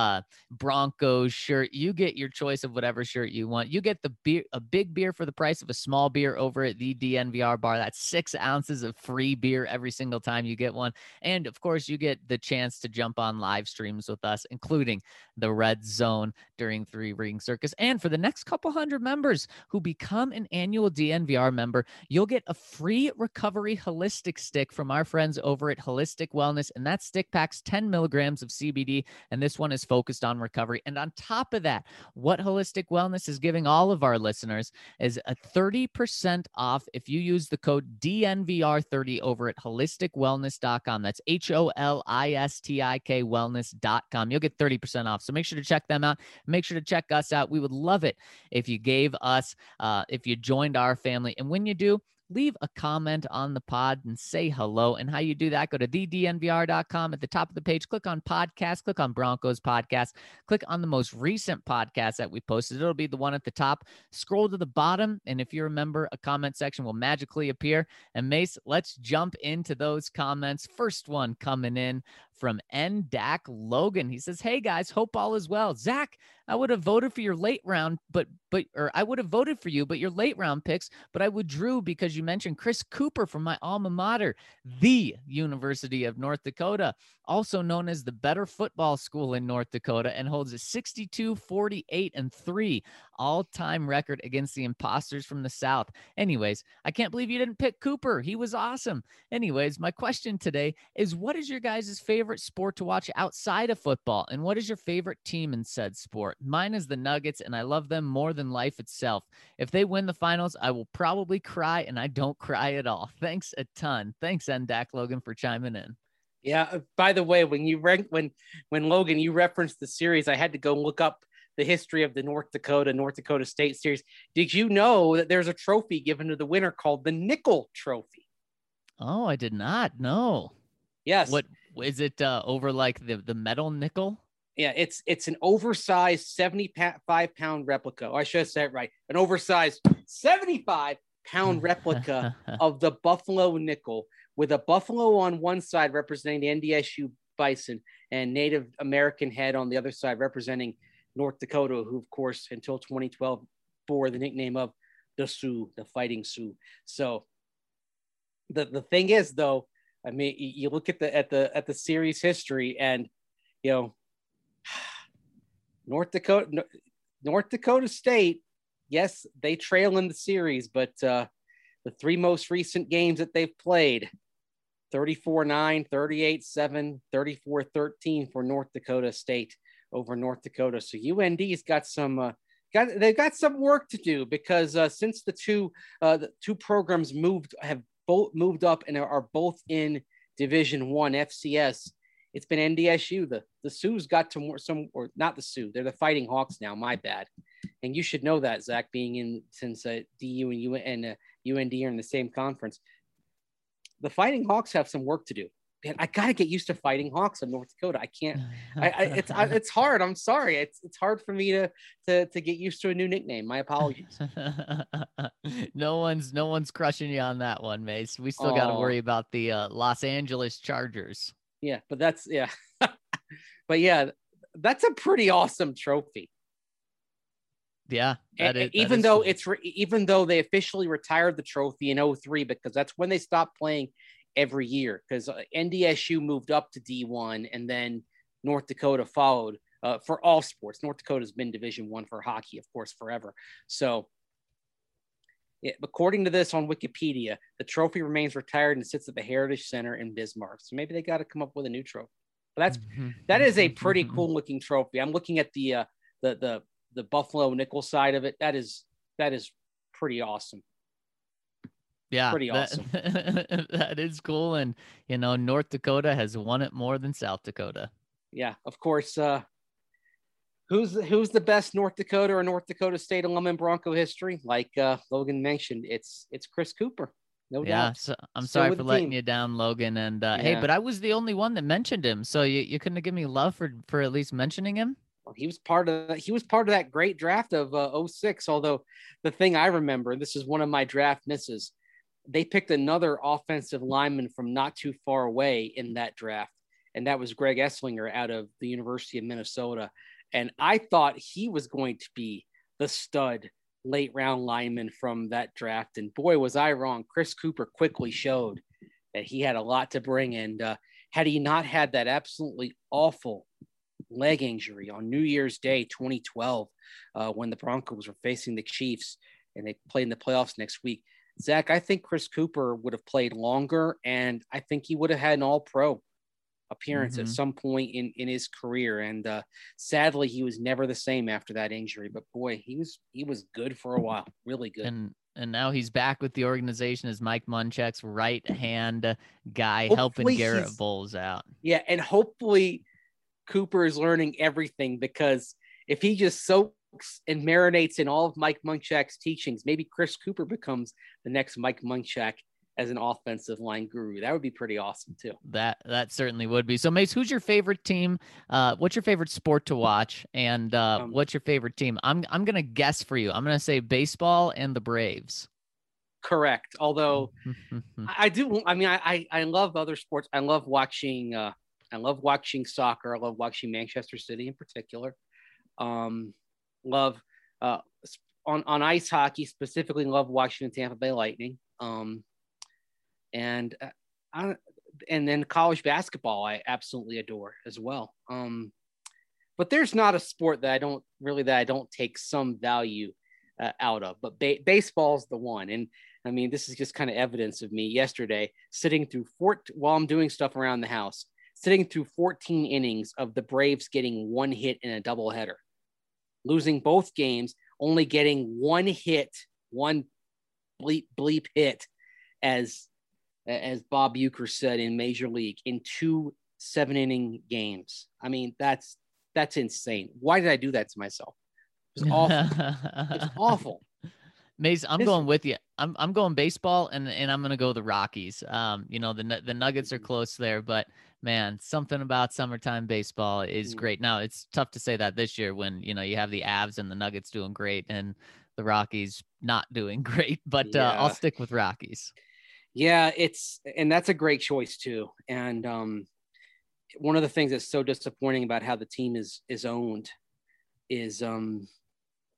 Broncos shirt. You get your choice of whatever shirt you want. You get the beer, a big beer for the price of a small beer over at the DNVR bar. That's 6 ounces of free beer every single time you get one. And of course, you get the chance to jump on live streams with us, including the Red Zone during Three Ring Circus. And for the next couple hundred members who become an annual DNVR member, you'll get a free recovery holistic stick from our friends over at Holistic Wellness. And that stick packs 10 milligrams of CBD. And this one is focused on recovery. And on top of that, what Holistic Wellness is giving all of our listeners is a 30% off if you use the code DNVR30 over at holisticwellness.com. That's HOLISTIK wellness.com. You'll get 30% off. So make sure to check them out. Make sure to check us out. We would love it if you gave us, if you joined our family. And when you do, leave a comment on the pod and say hello. And how you do that, go to thednvr.com. At the top of the page, click on podcast, click on Broncos podcast, click on the most recent podcast that we posted. It'll be the one at the top. Scroll to the bottom, and if you remember, a comment section will magically appear. And Mace, let's jump into those comments. First one coming in from NDAC Logan. He says, hey guys, hope all is well. Zach, I would have voted for your late round, or I would have voted for you, but your late round picks, but I withdrew because you mentioned Chris Cooper from my alma mater, the University of North Dakota, also known as the better football school in North Dakota, and holds a 62-48-3 all-time record against the imposters from the South. Anyways, I can't believe you didn't pick Cooper. He was awesome. Anyways, my question today is, what is your guys' favorite sport to watch outside of football? And what is your favorite team in said sport? Mine is the Nuggets, and I love them more than life itself. If they win the finals, I will probably cry, and I don't cry at all. Thanks a ton. Thanks, NDAC Logan, for chiming in. Yeah. By the way, when Logan, you referenced the series, I had to go look up the history of the North Dakota State series. Did you know that there's a trophy given to the winner called the Nickel Trophy? Oh, I did not know. Yes. What is it? Over like the metal nickel? Yeah, it's an oversized 75-pound replica. Oh, I should have said it right. An oversized 75-pound replica of the Buffalo nickel, with a buffalo on one side representing the NDSU Bison and Native American head on the other side representing North Dakota, who, of course, until 2012 bore the nickname of the Sioux, the Fighting Sioux. So the thing is, though, I mean, you look at the series history, and North Dakota State, yes, they trail in the series, but the three most recent games that they've played, 34-9, 38-7, 34-13 for North Dakota State over North Dakota. So UND's got some they've got some work to do, because since the two programs have both moved up and are both in Division I FCS, it's been NDSU. The Sioux's got or not the Sioux, they're the Fighting Hawks now. My bad. And you should know that, Zach, being in since DU and UND are in the same conference. The Fighting Hawks have some work to do. Man, I gotta get used to Fighting Hawks in North Dakota. I can't. It's hard. I'm sorry. It's hard for me to get used to a new nickname. My apologies. No one's crushing you on that one, Mace. We still got to worry about the Los Angeles Chargers. Yeah, but that's but yeah, that's a pretty awesome trophy. Yeah, even though they officially retired the trophy in 2003, because that's when they stopped playing every year, because NDSU moved up to D1 and then North Dakota followed for all sports. North Dakota's been Division I for hockey, of course, forever. So according to this on Wikipedia, the trophy remains retired and sits at the Heritage Center in Bismarck. So maybe they got to come up with a new trophy. But that is a pretty cool looking trophy. I'm looking at the Buffalo nickel side of it. That is pretty awesome. Yeah, pretty awesome. That is cool. And North Dakota has won it more than South Dakota. Yeah, of course. Who's the best North Dakota or North Dakota State alum in Bronco history? Like Logan mentioned, it's Chris Cooper. No doubt. Yeah, so I'm sorry for letting you down, Logan. And hey, but I was the only one that mentioned him, so you couldn't have given me love for at least mentioning him. Well, he was part of that great draft of 2006. Although the thing I remember, this is one of my draft misses, they picked another offensive lineman from not too far away in that draft, and that was Greg Esslinger out of the University of Minnesota. And I thought he was going to be the stud late round lineman from that draft. And boy, was I wrong. Chris Cooper quickly showed that he had a lot to bring. And had he not had that absolutely awful leg injury on New Year's Day 2012, when the Broncos were facing the Chiefs and they played in the playoffs next week, Zach, I think Chris Cooper would have played longer, and I think he would have had an all-pro appearance at some point in his career. And sadly, he was never the same after that injury. But boy, he was good for a while, really good. And now he's back with the organization as Mike Munchak's right hand guy, helping Garrett Bowles out. Yeah, and hopefully Cooper is learning everything, because if he just soaks and marinates in all of Mike Munchak's teachings, maybe Chris Cooper becomes the next Mike Munchak as an offensive line guru. That would be pretty awesome too. That certainly would be. So Mace, who's your favorite team? What's your favorite sport to watch? And what's your favorite team? I'm going to guess for you. I'm going to say baseball and the Braves. Correct. Although I love other sports. I love watching soccer. I love watching Manchester City in particular. Love on ice hockey, specifically love watching the Tampa Bay Lightning. And then college basketball, I absolutely adore as well. But there's not a sport that I don't take some value out of, but baseball's the one. And I mean, this is just kind of evidence of me yesterday sitting through while I'm doing stuff around the house, sitting through 14 innings of the Braves getting one hit in a doubleheader, losing both games, only getting one hit, one bleep hit, as Bob Uecker said in Major League, in 2 7-inning games. I mean, that's insane. Why did I do that to myself? It was awful. It's awful. Mace, I'm going with you. I'm going baseball, and I'm going to go the Rockies. The Nuggets are close there, but man, something about summertime baseball is great. Now, it's tough to say that this year when, you have the Avs and the Nuggets doing great and the Rockies not doing great, but I'll stick with Rockies. Yeah, and that's a great choice too. And one of the things that's so disappointing about how the team is owned is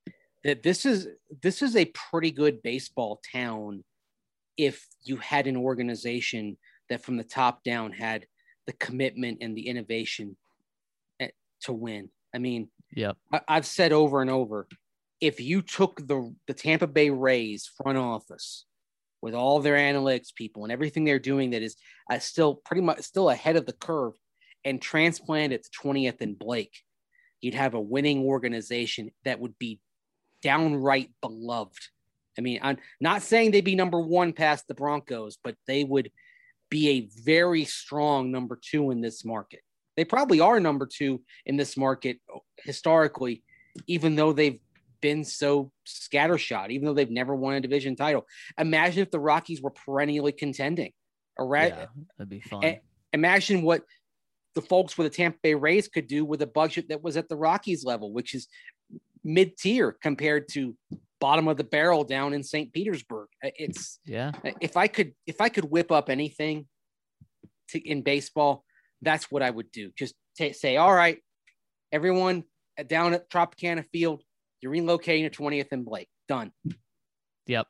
that this is a pretty good baseball town if you had an organization that from the top down had the commitment and the innovation to win. I mean, Yep. I've said over and over, if you took the Tampa Bay Rays front office with all their analytics people and everything they're doing that is still pretty much still ahead of the curve and transplant it to 20th and Blake, you'd have a winning organization that would be downright beloved. I mean, I'm not saying they'd be number one past the Broncos, but they would be a very strong number two in this market. They probably are number two in this market historically, even though they've been so scattershot, even though they've never won a division title. Imagine if the Rockies were perennially contending. Yeah, that'd be fun. Imagine what the folks with the Tampa Bay Rays could do with a budget that was at the Rockies level, which is mid-tier compared to bottom of the barrel down in St. Petersburg. It's if I could whip up anything in baseball, that's what I would do. Just say, all right, everyone down at Tropicana Field, you're relocating to 20th and Blake. Done. Yep.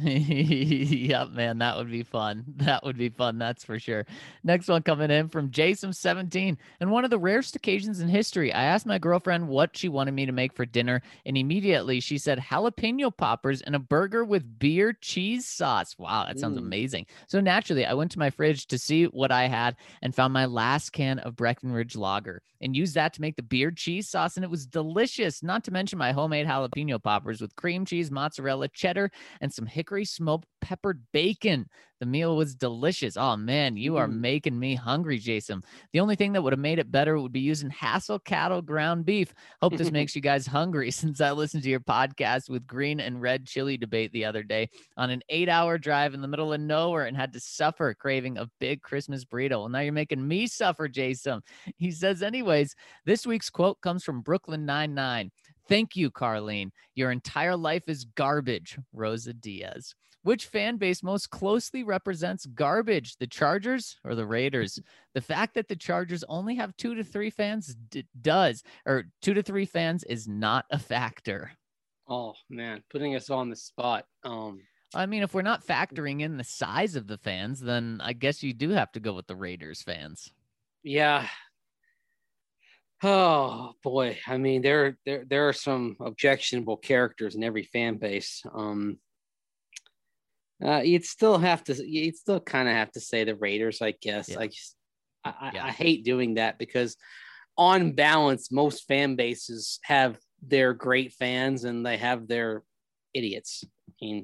Yep, man. That would be fun. That would be fun. That's for sure. Next one coming in from Jason17. And one of the rarest occasions in history, I asked my girlfriend what she wanted me to make for dinner, and immediately she said jalapeno poppers and a burger with beer cheese sauce. Wow, that sounds amazing. So naturally, I went to my fridge to see what I had and found my last can of Breckenridge Lager and used that to make the beer cheese sauce, and it was delicious. Not to mention my homemade jalapeno poppers with cream cheese, mozzarella, cheddar, and some hickory smoked peppered bacon. The meal was delicious. Oh man, you are making me hungry, Jason. The only thing that would have made it better would be using Hassel cattle ground beef. Hope this makes you guys hungry, since I listened to your podcast with green and red chili debate the other day on an 8-hour drive in the middle of nowhere and had to suffer craving a big Christmas burrito. Well, now you're making me suffer, Jason. He says, anyways, this week's quote comes from Brooklyn Nine-Nine. Thank you, Carlene. Your entire life is garbage, Rosa Diaz. Which fan base most closely represents garbage, the Chargers or the Raiders? The fact that the Chargers only have 2 to 3 fans 2 to 3 fans is not a factor. Oh man, putting us on the spot. I mean, if we're not factoring in the size of the fans, then I guess you do have to go with the Raiders fans. Yeah. Oh boy. I mean, there are some objectionable characters in every fan base. You'd still kind of have to say the Raiders, I guess. Yeah. I hate doing that because on balance, most fan bases have their great fans and they have their idiots. I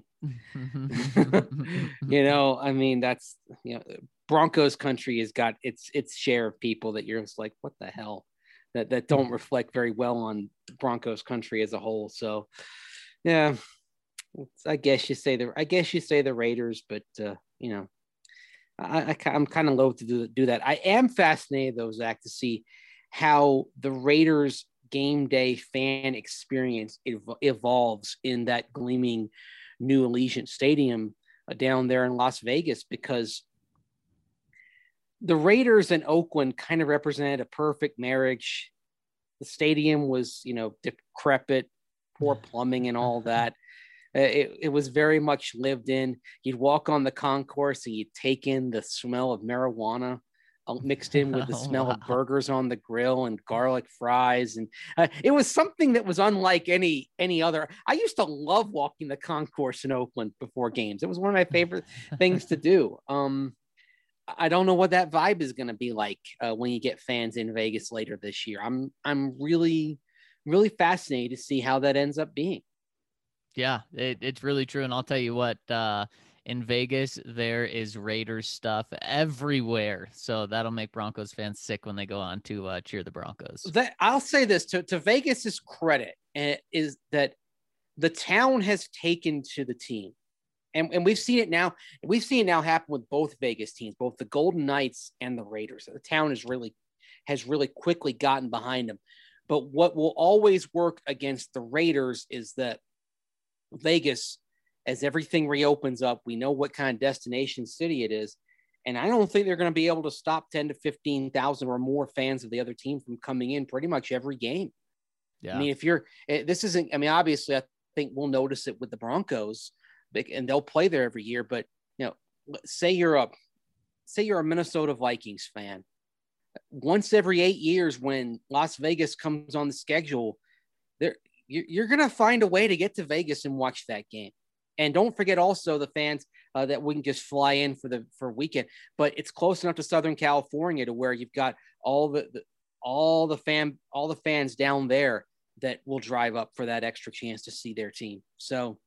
mean, that's, Broncos country has got its share of people that you're just like, what the hell, that don't reflect very well on Broncos country as a whole. So yeah, I guess you say the Raiders, but I'm kind of loath to do that. I am fascinated though, Zach, to see how the Raiders game day fan experience evolves in that gleaming new Allegiant Stadium down there in Las Vegas, because the Raiders and Oakland kind of represented a perfect marriage. The stadium was, decrepit, poor plumbing and all that. It was very much lived in. You'd walk on the concourse and you'd take in the smell of marijuana mixed in with the smell of burgers on the grill and garlic fries. And it was something that was unlike any other. I used to love walking the concourse in Oakland before games. It was one of my favorite things to do. I don't know what that vibe is going to be like when you get fans in Vegas later this year. I'm really, really fascinated to see how that ends up being. Yeah, it's really true. And I'll tell you what, in Vegas, there is Raiders stuff everywhere. So that'll make Broncos fans sick when they go on to cheer the Broncos. I'll say this to Vegas's credit is that the town has taken to the team. And we've seen it now. We've seen it now happen with both Vegas teams, both the Golden Knights and the Raiders. The town has really quickly gotten behind them. But what will always work against the Raiders is that Vegas, as everything reopens up, we know what kind of destination city it is. And I don't think they're going to be able to stop 10 to 15,000 or more fans of the other team from coming in pretty much every game. Yeah. I mean, obviously at think we'll notice it with the Broncos, and they'll play there every year. But, say you're a Minnesota Vikings fan. Once every 8 years, when Las Vegas comes on the schedule, you're going to find a way to get to Vegas and watch that game. And don't forget also the fans that we can just fly in for a weekend, but it's close enough to Southern California to where you've got all the fans down there that will drive up for that extra chance to see their team. So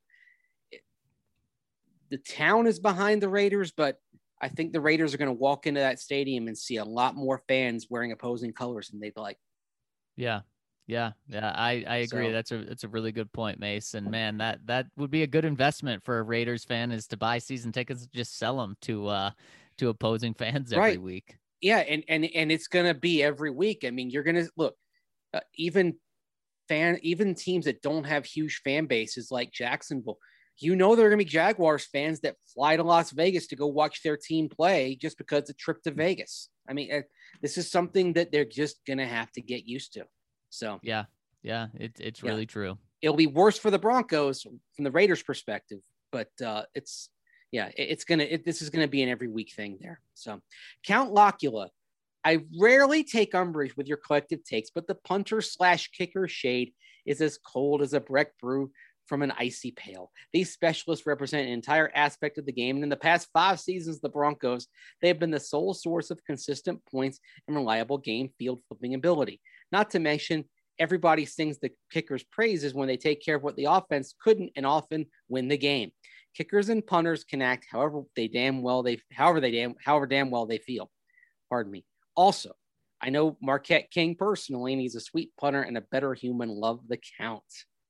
the town is behind the Raiders, but I think the Raiders are going to walk into that stadium and see a lot more fans wearing opposing colors than they'd like. Yeah. I agree. So, That's a really good point, Mace. And man, that would be a good investment for a Raiders fan, is to buy season tickets and just sell them to opposing fans every week. Yeah. And it's going to be every week. I mean, you're going to look, even teams that don't have huge fan bases like Jacksonville, there are going to be Jaguars fans that fly to Las Vegas to go watch their team play just because it's a trip to Vegas. I mean, this is something that they're just going to have to get used to. So yeah, it's really true. It'll be worse for the Broncos from the Raiders' perspective, but this is going to be an every week thing there. So Count Locula, I rarely take umbrage with your collective takes, but the punter/kicker shade is as cold as a Breck brew from an icy pail. These specialists represent an entire aspect of the game, and in the past 5 seasons of the Broncos, they have been the sole source of consistent points and reliable game field flipping ability. Not to mention, everybody sings the kickers' praises when they take care of what the offense couldn't and often win the game. Kickers and punters can act however damn well they feel. Pardon me. Also, I know Marquette King personally, and he's a sweet punter and a better human. Love the Count.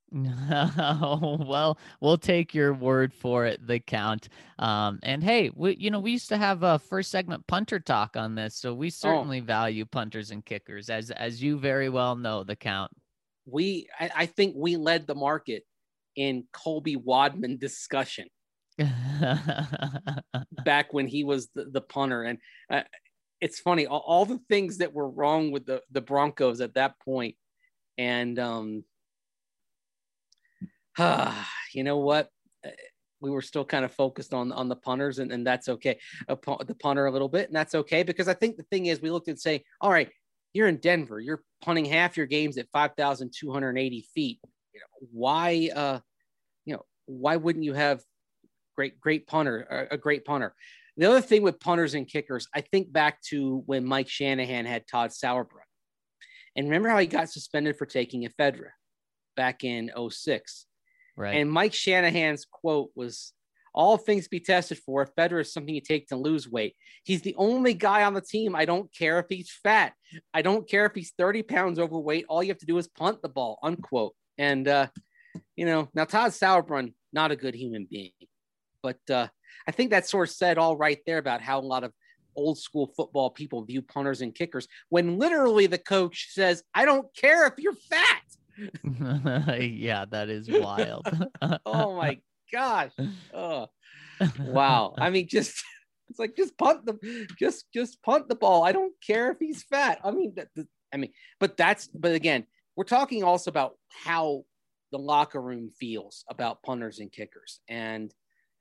Well, we'll take your word for it, the Count. And hey, we used to have a first segment punter talk on this, so we certainly value punters and kickers, as you very well know, the Count. I think we led the market in Colby Wadman discussion back when he was the punter. And it's funny, all the things that were wrong with the Broncos at that point. And, you know what? We were still kind of focused on the punters, and that's okay. The punter a little bit, and that's okay, because I think the thing is, we looked and say, all right, you're in Denver, you're punting half your games at 5,280 feet. Why wouldn't you have a great punter? The other thing with punters and kickers, I think back to when Mike Shanahan had Todd Sauerbrunn, and remember how he got suspended for taking ephedra back in 2006. Right. And Mike Shanahan's quote was, "All things be tested for, ephedra is something you take to lose weight. He's the only guy on the team. I don't care if he's fat. I don't care if he's 30 pounds overweight. All you have to do is punt the ball," unquote. And, now Todd Sauerbrunn, not a good human being. But I think that sort of said all right there about how a lot of old school football people view punters and kickers, when literally the coach says, "I don't care if you're fat." Yeah, that is wild. Oh my gosh. Oh, wow. I mean, just punt the ball. I don't care if he's fat. I mean, but again, we're talking also about how the locker room feels about punters and kickers. And,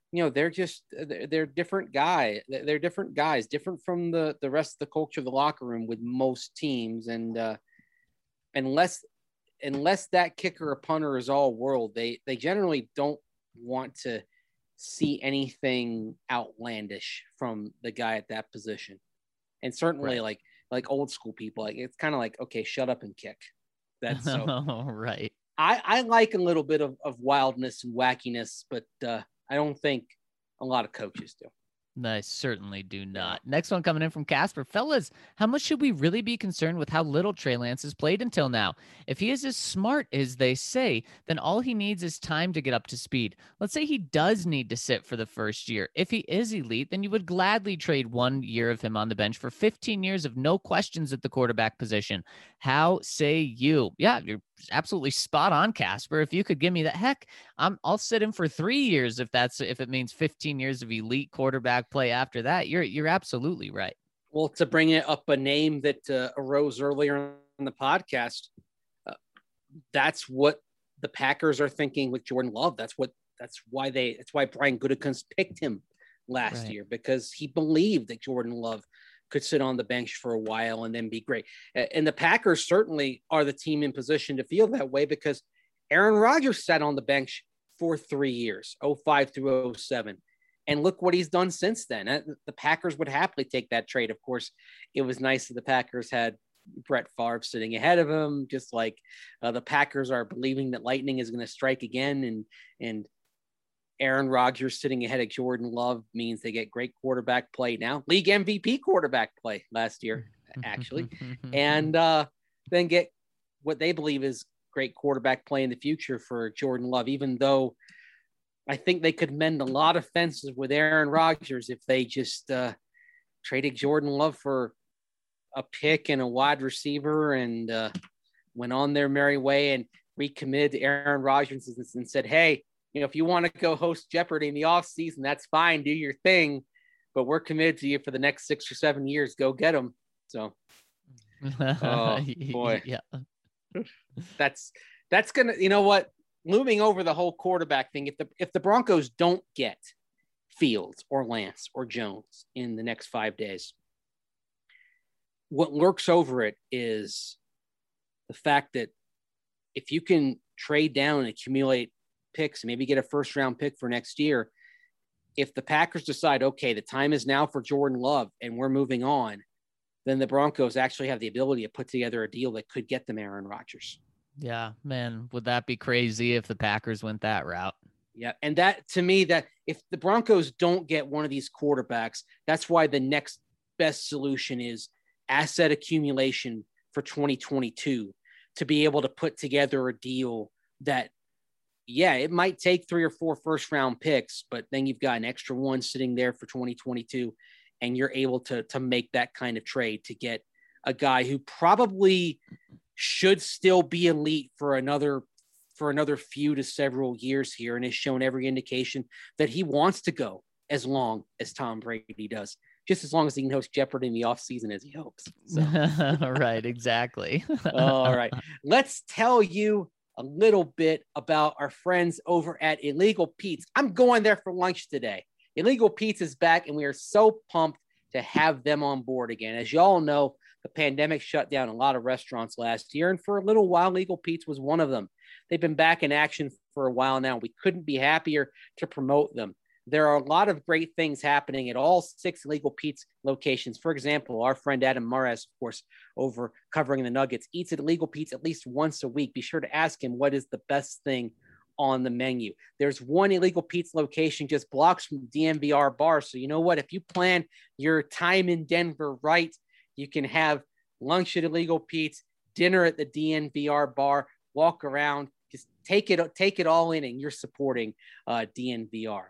they're different guys. They're different guys, different from the rest of the culture of the locker room with most teams. And unless that kicker or punter is all world, they generally don't want to see anything outlandish from the guy at that position. And certainly right. like old school people, it's kind of like, okay, shut up and kick. That's so right. I like a little bit of wildness and wackiness, but I don't think a lot of coaches do. I certainly do not. Next one coming in from Casper. Fellas, how much should we really be concerned with how little Trey Lance has played until now? If he is as smart as they say, then all he needs is time to get up to speed. Let's say he does need to sit for the first year. If he is elite, then you would gladly trade 1 year of him on the bench for 15 years of no questions at the quarterback position. How say you? Yeah, you're absolutely spot on, Casper. If you could give me that, heck, I'll sit him for 3 years if it means 15 years of elite quarterback play after that. You're absolutely right. Well, to bring it up a name that arose earlier in the podcast, that's what the Packers are thinking with Jordan Love. That's why Brian Gutekunst picked him last year, because he believed that Jordan Love could sit on the bench for a while and then be great. And the Packers certainly are the team in position to feel that way, because Aaron Rodgers sat on the bench for 3 years, 05 through 07. And look what he's done since then. The Packers would happily take that trade. Of course, it was nice that the Packers had Brett Favre sitting ahead of him, just like the Packers are believing that lightning is going to strike again. And Aaron Rodgers sitting ahead of Jordan Love means they get great quarterback play now. League MVP quarterback play last year, actually. And then get what they believe is great quarterback play in the future for Jordan Love, even though I think they could mend a lot of fences with Aaron Rodgers if they just traded Jordan Love for a pick and a wide receiver and went on their merry way and recommitted to Aaron Rodgers and said, hey, if you want to go host Jeopardy in the offseason, that's fine. Do your thing. But we're committed to you for the next 6 or 7 years. Go get them. So, oh, boy. Yeah. That's going to, you know what? Looming over the whole quarterback thing, if the Broncos don't get Fields or Lance or Jones in the next 5 days, what lurks over it is the fact that if you can trade down and accumulate picks and maybe get a first round pick for next year, if the Packers decide, okay, the time is now for Jordan Love and we're moving on, then the Broncos actually have the ability to put together a deal that could get them Aaron Rodgers. Yeah, man, would that be crazy if the Packers went that route? Yeah, and that, to me, that if the Broncos don't get one of these quarterbacks, that's why the next best solution is asset accumulation for 2022 to be able to put together a deal that, yeah, it might take 3 or 4 first round picks, but then you've got an extra one sitting there for 2022, and you're able to make that kind of trade to get a guy who probably should still be elite for another few to several years here, and has shown every indication that he wants to go as long as Tom Brady does, just as long as he can host Jeopardy in the offseason as he hopes. So. Right, exactly. All right. Let's tell you a little bit about our friends over at Illegal Pete's. I'm going there for lunch today. Illegal Pete's is back, and we are so pumped to have them on board again. As you all know, the pandemic shut down a lot of restaurants last year, and for a little while, Illegal Pete's was one of them. They've been back in action for a while now. We couldn't be happier to promote them. There are a lot of great things happening at all 6 Illegal Pete's locations. For example, our friend Adam Mares, of course, over covering the Nuggets, eats at Illegal Pete's at least once a week. Be sure to ask him what is the best thing on the menu. There's one Illegal Pete's location just blocks from the DNVR bar. So you know what? If you plan your time in Denver right, you can have lunch at Illegal Pete's, dinner at the DNVR bar, walk around, just take it all in, and you're supporting DNVR.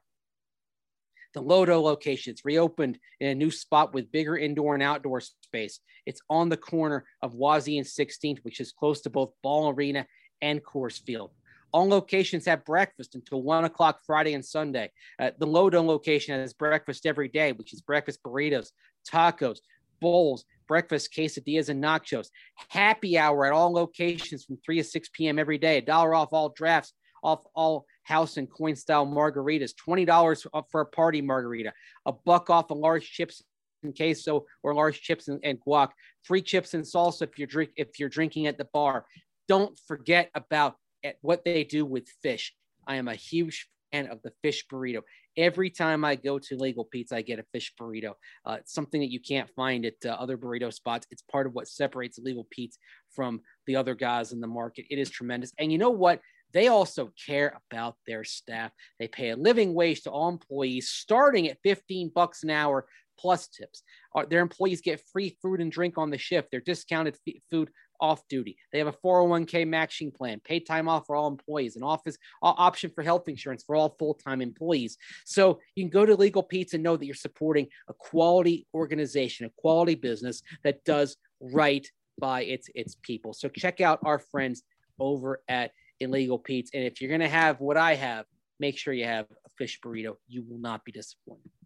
The Lodo location, it's reopened in a new spot with bigger indoor and outdoor space. It's on the corner of Wazee and 16th, which is close to both Ball Arena and Coors Field. All locations have breakfast until 1 o'clock Friday and Sunday. The Lodo location has breakfast every day, which is breakfast burritos, tacos, bowls, breakfast quesadillas, and nachos. Happy hour at all locations from 3 to 6 p.m. every day. $1 off all drafts, off all house and coin style margaritas, $20 for a party margarita, $1 off a large chips and queso or large chips and guac, free chips and salsa if you're drinking at the bar. Don't forget about what they do with fish. I am a huge fan of the fish burrito. Every time I go to Illegal Pete's, I get a fish burrito. It's something that you can't find at other burrito spots. It's part of what separates Illegal Pete's from the other guys in the market. It is tremendous. And you know what? They also care about their staff. They pay a living wage to all employees, starting at $15 an hour plus tips. Their employees get free food and drink on the shift. They're discounted food off duty. They have a 401k matching plan, paid time off for all employees, an office option for health insurance for all full-time employees. So you can go to Illegal Pete's and know that you're supporting a quality organization, a quality business that does right by its people. So check out our friends over at Illegal Pete's. And if you're going to have what I have, make sure you have a fish burrito. You will not be disappointed.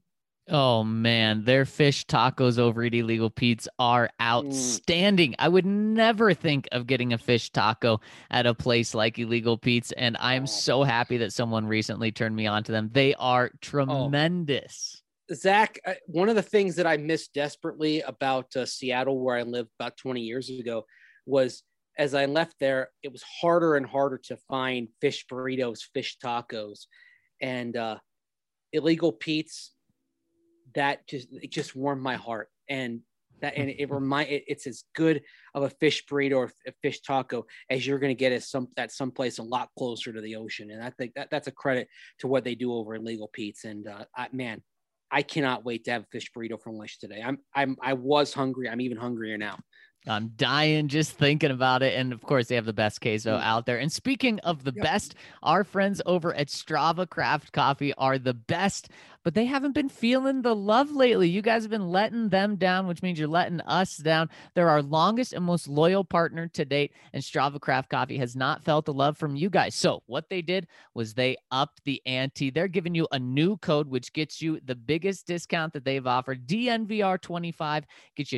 Oh man, their fish tacos over at Illegal Pete's are outstanding. I would never think of getting a fish taco at a place like Illegal Pete's, and I'm Oh, so happy that someone recently turned me on to them. They are oh, tremendous. Zach, one of the things that I miss desperately about Seattle, where I lived about 20 years ago, was as I left there, it was harder and harder to find fish burritos, fish tacos, and Illegal Pete's. It just warmed my heart, and it's as good of a fish burrito or a fish taco as you're going to get at someplace a lot closer to the ocean. And I think that's a credit to what they do over at Legal Pete's. And man, I cannot wait to have a fish burrito for lunch today. I was hungry. I'm even hungrier now. I'm dying just thinking about it. And of course, they have the best queso out there. And speaking of the best, our friends over at Strava Craft Coffee are the best, but they haven't been feeling the love lately. You guys have been letting them down, which means you're letting us down. They're our longest and most loyal partner to date, and Strava Craft Coffee has not felt the love from you guys. So what they did was they upped the ante. They're giving you a new code, which gets you the biggest discount that they've offered. DNVR25 gets you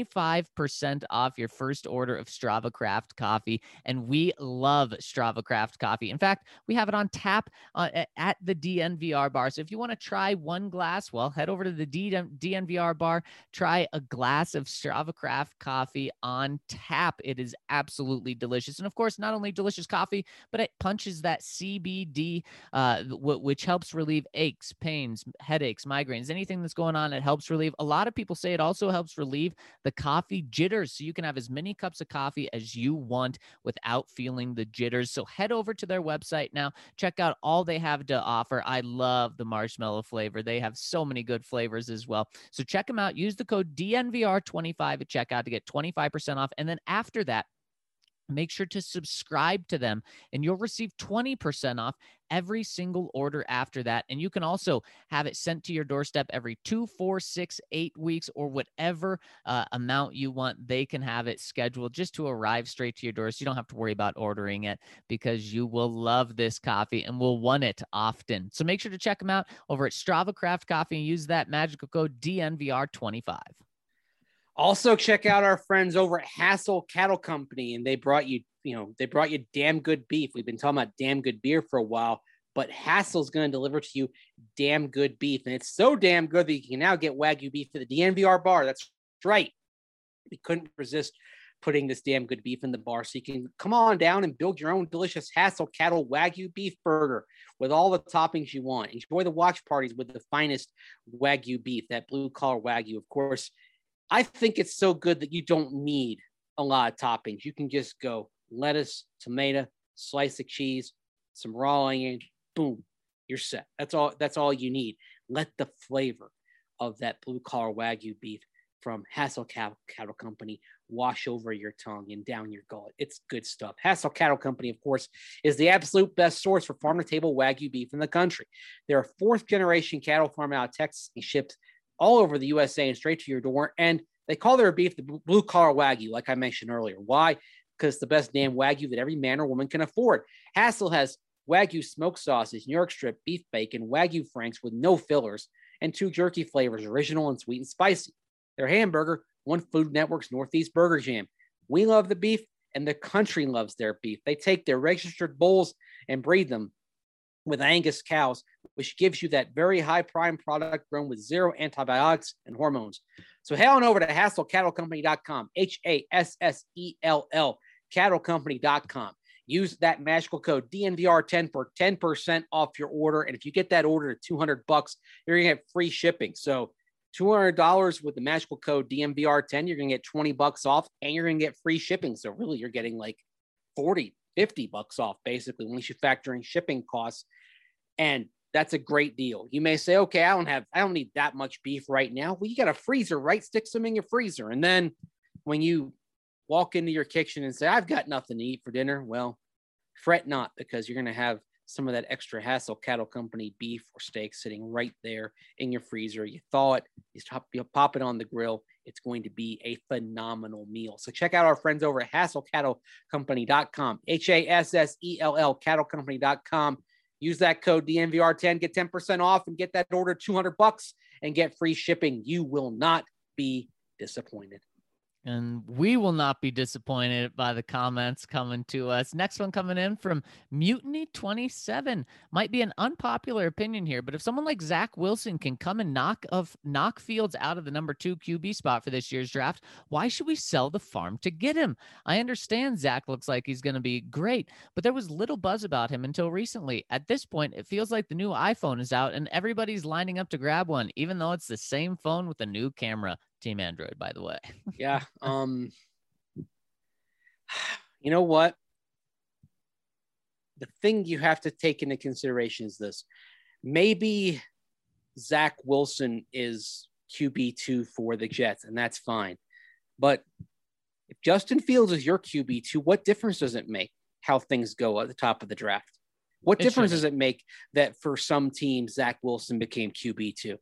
25% off your first order of Strava Craft Coffee. And we love Strava Craft Coffee. In fact, we have it on tap at the DNVR bar. So if you want to try one glass, well, head over to the DNVR bar, try a glass of Strava Craft Coffee on tap. It is absolutely delicious. And of course, not only delicious coffee, but it punches that CBD, which helps relieve aches, pains, headaches, migraines, anything that's going on. It helps relieve. A lot of people say it also helps relieve the coffee jitters, so you can have as many cups of coffee as you want without feeling the jitters. So head over to their website now, check out all they have to offer. I love the marshmallow flavor. They have so many good flavors as well. So check them out. Use the code DNVR25 at checkout to get 25% off. And then after that, make sure to subscribe to them and you'll receive 20% off every single order after that. And you can also have it sent to your doorstep every 2, 4, 6, 8 weeks, or whatever amount you want. They can have it scheduled just to arrive straight to your door. So you don't have to worry about ordering it, because you will love this coffee and will want it often. So make sure to check them out over at Strava Craft Coffee and use that magical code DNVR25. Also, check out our friends over at Hassel Cattle Company, and they brought you damn good beef. We've been talking about damn good beer for a while, but Hassel's going to deliver to you damn good beef, and it's so damn good that you can now get Wagyu beef at the DNVR bar. That's right. We couldn't resist putting this damn good beef in the bar, so you can come on down and build your own delicious Hassel Cattle Wagyu beef burger with all the toppings you want. Enjoy the watch parties with the finest Wagyu beef, that blue collar Wagyu, of course. I think it's so good that you don't need a lot of toppings. You can just go lettuce, tomato, slice of cheese, some raw onion, boom, you're set. That's all you need. Let the flavor of that blue collar Wagyu beef from Hassel Cattle Company wash over your tongue and down your gullet. It's good stuff. Hassel Cattle Company, of course, is the absolute best source for farm-to-table Wagyu beef in the country. They're a fourth-generation cattle farm out of Texas and shipped all over the USA and straight to your door. And they call their beef the blue collar Wagyu, like I mentioned earlier. Why? Because it's the best damn Wagyu that every man or woman can afford. Hassel has Wagyu smoked sausage, New York strip, beef bacon, Wagyu franks with no fillers, and 2 jerky flavors, original and sweet and spicy. Their hamburger, One Food Network's Northeast Burger Jam. We love the beef, and the country loves their beef. They take their registered bulls and breed them with Angus cows, which gives you that very high prime product grown with 0 antibiotics and hormones. So head on over to HasselCattleCompany.com, HASSELL, CattleCompany.com. Use that magical code DNVR10 for 10% off your order. And if you get that order to $200, you're going to get free shipping. So $200 with the magical code DNVR10, you're going to get $20 off, and you're going to get free shipping. So really, you're getting like $40, $50 off, basically, once you factor in shipping costs. And that's a great deal. You may say, okay, I don't need that much beef right now. Well, you got a freezer, right? Stick some in your freezer. And then when you walk into your kitchen and say, I've got nothing to eat for dinner, well, fret not, because you're going to have some of that extra Hassel Cattle Company beef or steak sitting right there in your freezer. You thaw it, you pop it on the grill. It's going to be a phenomenal meal. So check out our friends over at HasselCattleCompany.com, HASSELL, CattleCompany.com. Use that code DNVR10, get 10% off, and get that order $200 and get free shipping. You will not be disappointed. And we will not be disappointed by the comments coming to us. Next one coming in from Mutiny27. Might be an unpopular opinion here, but if someone like Zach Wilson can come and knock Fields out of the number 2 QB spot for this year's draft, why should we sell the farm to get him? I understand Zach looks like he's going to be great, but there was little buzz about him until recently. At this point, it feels like the new iPhone is out and everybody's lining up to grab one, even though it's the same phone with a new camera. Team Android, by the way. Yeah. You know what? The thing you have to take into consideration is this. Maybe Zach Wilson is QB2 for the Jets, and that's fine. But if Justin Fields is your QB2, what difference does it make how things go at the top of the draft? What difference does it make that for some teams, Zach Wilson became QB2?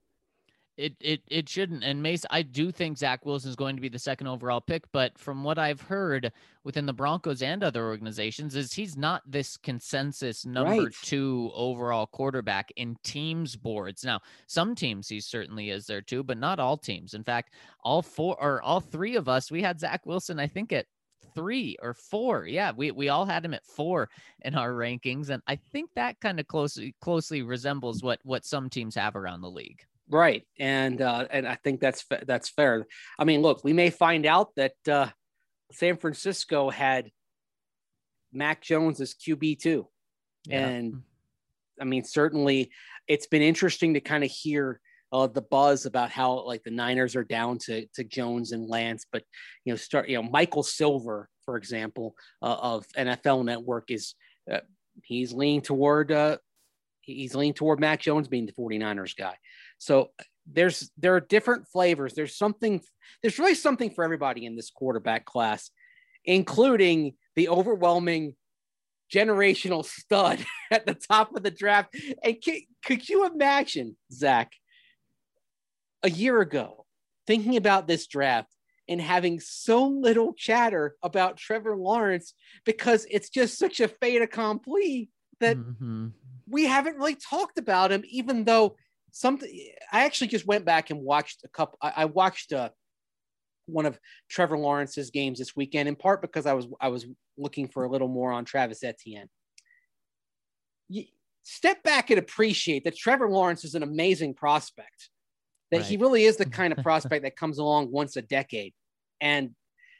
It shouldn't. And Mace, I do think Zach Wilson is going to be the second overall pick, but from what I've heard within the Broncos and other organizations is he's not this consensus number 2 overall quarterback in teams boards. Now, some teams he certainly is there too, but not all teams. In fact, all 3 of us, we had Zach Wilson, I think at 3 or 4. Yeah, we all had him at 4 in our rankings. And I think that kind of closely resembles what some teams have around the league. Right. And I think that's fair. I mean, look, we may find out that San Francisco had Mac Jones as QB2. Yeah. And I mean, certainly it's been interesting to kind of hear the buzz about how like the Niners are down to Jones and Lance, but Michael Silver, for example, of NFL Network is he's leaning toward Mac Jones being the 49ers guy. So there are different flavors. There's really something for everybody in this quarterback class, including the overwhelming generational stud at the top of the draft. And could you imagine, Zach, a year ago, thinking about this draft and having so little chatter about Trevor Lawrence because it's just such a fait accompli that we haven't really talked about him, even though I actually just went back and watched I watched one of Trevor Lawrence's games this weekend, in part because I was looking for a little more on Travis Etienne. Step back and appreciate that Trevor Lawrence is an amazing prospect, that he really is the kind of prospect that comes along once a decade. And,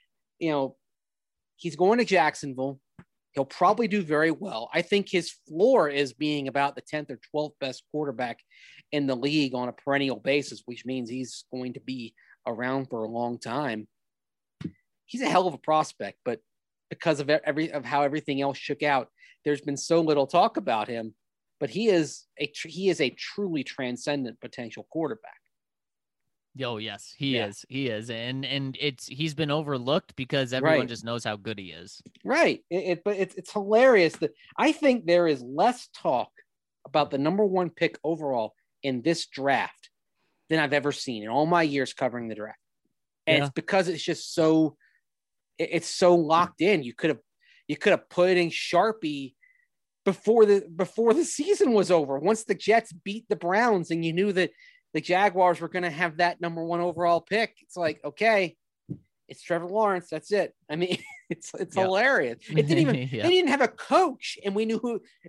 he's going to Jacksonville. He'll probably do very well. I think his floor is being about the 10th or 12th best quarterback in the league on a perennial basis, which means he's going to be around for a long time. He's a hell of a prospect, but because of how everything else shook out, there's been so little talk about him. But he is a truly transcendent potential quarterback. Oh yes, he is. He is, and he's been overlooked because everyone just knows how good he is. Right. But it's hilarious that I think there is less talk about the number 1 pick overall in this draft than I've ever seen in all my years covering the draft, and it's because it's just so locked in. You could have put in Sharpie before the season was over. Once the Jets beat the Browns, and you knew that the Jaguars were going to have that number 1 overall pick. It's like, okay, it's Trevor Lawrence. That's it. I mean, it's hilarious. It didn't even, they didn't have a coach, and we knew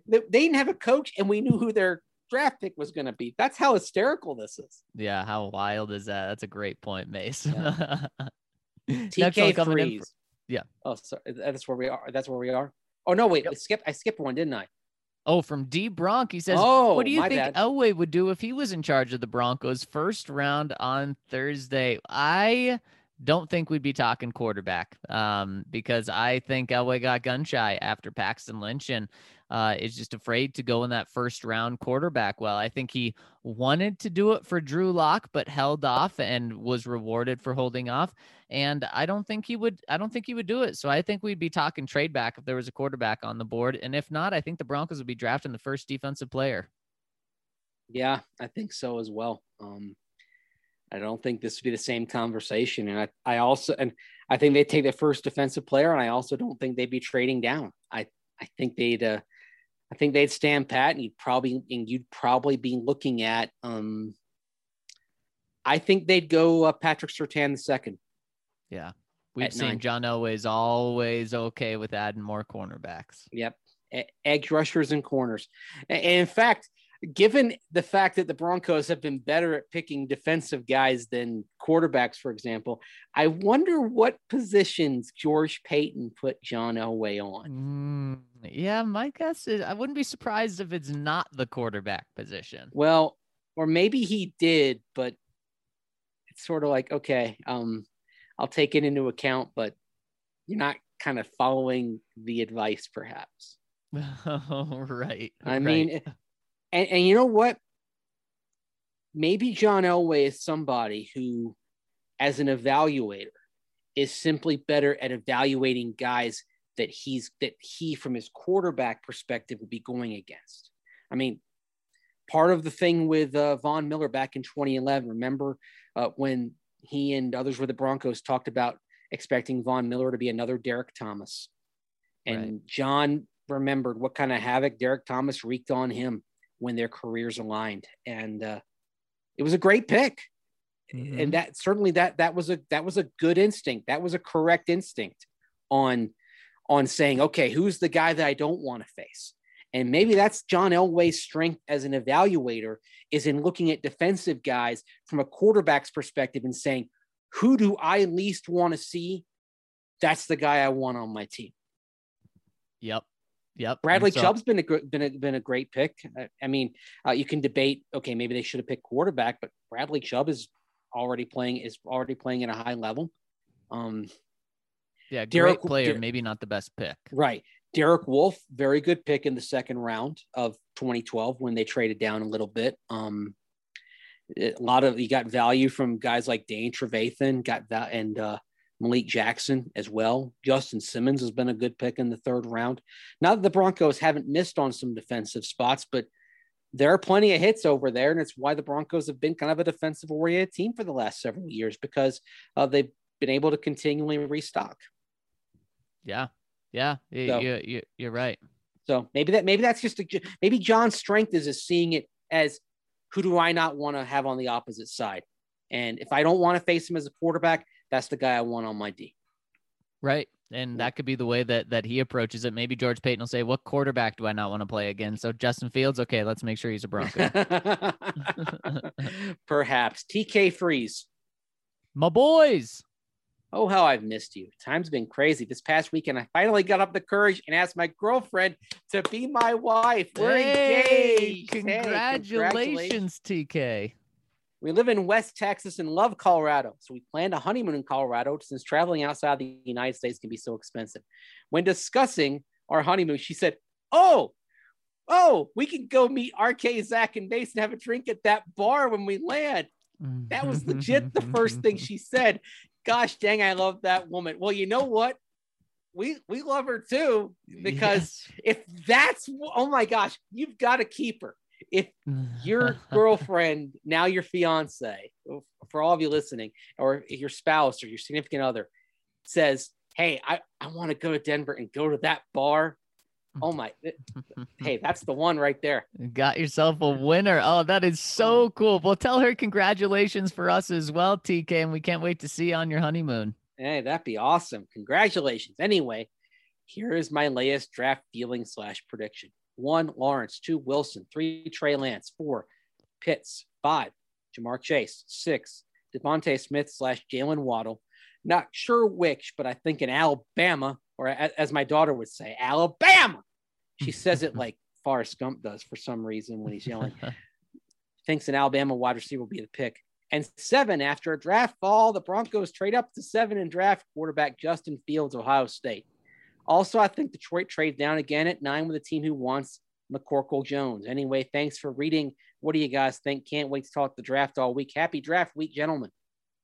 who their draft pick was going to be. That's how hysterical this is. Yeah. How wild is that? That's a great point, Mace. Yeah. TK Freeze. Yeah. Oh, sorry. That's where we are. Oh no, wait, I skipped one, didn't I? Oh, from D Bronk. He says, what do you think Elway would do if he was in charge of the Broncos first round on Thursday? I don't think we'd be talking quarterback because I think Elway got gun shy after Paxton Lynch and is just afraid to go in that first round quarterback. Well, I think he wanted to do it for Drew Lock, but held off and was rewarded for holding off. And I don't think he would do it. So I think we'd be talking trade back if there was a quarterback on the board. And if not, I think the Broncos would be drafting the first defensive player. Yeah, I think so as well. I don't think this would be the same conversation. And I think they'd take the first defensive player. And I also don't think they'd be trading down. I think they'd I think they'd stand pat, and you'd probably be looking at. I think they'd go Patrick Surtain II. Yeah, we've seen 9. John Elway's always okay with adding more cornerbacks. Yep, edge rushers and corners. And in fact, given the fact that the Broncos have been better at picking defensive guys than quarterbacks, for example, I wonder what positions George Paton put John Elway on. Yeah, my guess is I wouldn't be surprised if it's not the quarterback position. Well, or maybe he did, but it's sort of like, okay, I'll take it into account, but you're not kind of following the advice, perhaps. Oh, right. I mean, and you know what? Maybe John Elway is somebody who, as an evaluator, is simply better at evaluating guys that he, from his quarterback perspective, would be going against. I mean, part of the thing with Von Miller back in 2011, remember when he and others with the Broncos talked about expecting Von Miller to be another Derek Thomas. And right. John remembered what kind of havoc Derek Thomas wreaked on him when their careers aligned. And it was a great pick. Mm-hmm. And that certainly that was a good instinct. That was a correct instinct on saying, okay, who's the guy that I don't want to face? And maybe that's John Elway's strength as an evaluator, is in looking at defensive guys from a quarterback's perspective and saying, who do I least want to see? That's the guy I want on my team. Yep. Bradley Chubb's been a great pick. I mean, you can debate, okay, maybe they should have picked quarterback, but Bradley Chubb is already playing at a high level. Yeah, great player, maybe not the best pick. Right. Derek Wolfe, very good pick in the second round of 2012 when they traded down a little bit. You got value from guys like Dane Trevathan, and Malik Jackson as well. Justin Simmons has been a good pick in the third round. Not that the Broncos haven't missed on some defensive spots, but there are plenty of hits over there, and it's why the Broncos have been kind of a defensive-oriented team for the last several years, because they've been able to continually restock. Yeah, you're right. So maybe John's strength is seeing it as, who do I not want to have on the opposite side? And if I don't want to face him as a quarterback, that's the guy I want on my D. Right. And that could be the way that he approaches it. Maybe George Paton will say, what quarterback do I not want to play again? So Justin Fields, okay, let's make sure he's a Bronco. Perhaps. TK Freeze. My boys. Oh, how I've missed you. Time's been crazy. This past weekend, I finally got up the courage and asked my girlfriend to be my wife. We're engaged. Congratulations, TK. We live in West Texas and love Colorado, so we planned a honeymoon in Colorado since traveling outside the United States can be so expensive. When discussing our honeymoon, she said, oh, we can go meet RK, Zach, and Mason and have a drink at that bar when we land. That was legit the first thing she said. Gosh dang, I love that woman. Well, you know what? We love her too, because if that's, oh my gosh, you've got to keep her. If your girlfriend, now your fiance, for all of you listening, or your spouse or your significant other says, hey, I want to go to Denver and go to that bar. Oh my, hey, that's the one right there. Got yourself a winner. Oh, that is so cool. Well, tell her congratulations for us as well, TK, and we can't wait to see you on your honeymoon. Hey, that'd be awesome. Congratulations. Anyway, here is my latest draft feeling / prediction. 1, Lawrence. 2, Wilson. 3, Trey Lance. 4, Pitts. 5, Jamar Chase. 6, Devontae Smith / Jalen Waddle. Not sure which, but I think in Alabama, or as my daughter would say, Alabama. She says it like Forrest Gump does for some reason when he's yelling. Thinks an Alabama wide receiver will be the pick. And 7, after a draft fall, the Broncos trade up to 7 and draft quarterback Justin Fields, Ohio State. Also, I think Detroit trades down again at 9 with a team who wants McCorkle Jones. Anyway, thanks for reading. What do you guys think? Can't wait to talk the draft all week. Happy draft week, gentlemen.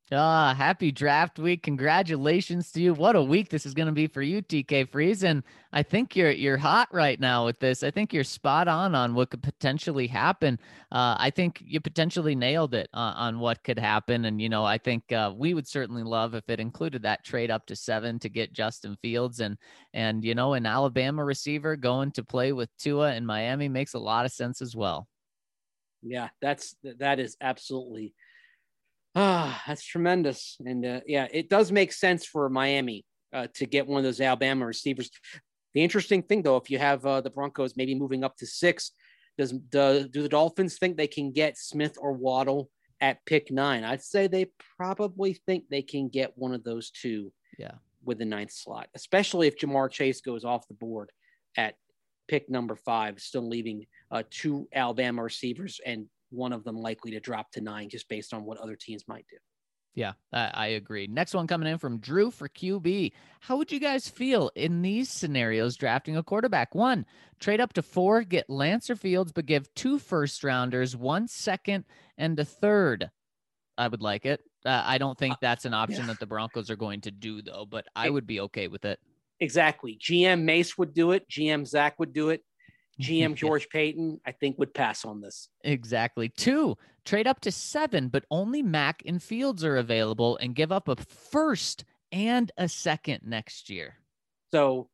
Happy draft week. Congratulations to you. What a week this is going to be for you, TK Freeze. And I think you're hot right now with this. I think you're spot on what could potentially happen. I think you potentially nailed it on what could happen. And, I think we would certainly love if it included that trade up to 7 to get Justin Fields and an Alabama receiver going to play with Tua in Miami makes a lot of sense as well. Yeah, that is absolutely that's tremendous. And it does make sense for Miami to get one of those Alabama receivers. The interesting thing, though, if you have the Broncos maybe moving up to 6, do the Dolphins think they can get Smith or Waddle at pick 9? I'd say they probably think they can get one of those two with the 9th slot, especially if Jamar Chase goes off the board at pick number 5, still leaving 2 Alabama receivers and one of them likely to drop to 9 just based on what other teams might do. Yeah, I agree. Next one coming in from Drew for QB. How would you guys feel in these scenarios drafting a quarterback? 1, trade up to 4, get Lance or Fields, but give 2 first-rounders, 1 second, and a 3rd. I would like it. I don't think that's an option that the Broncos are going to do, though, but I would be okay with it. Exactly. GM Mace would do it. GM Zach would do it. GM George Payton, I think, would pass on this. Exactly. 2, trade up to 7, but only Mac and Fields are available and give up a first and a second next year. So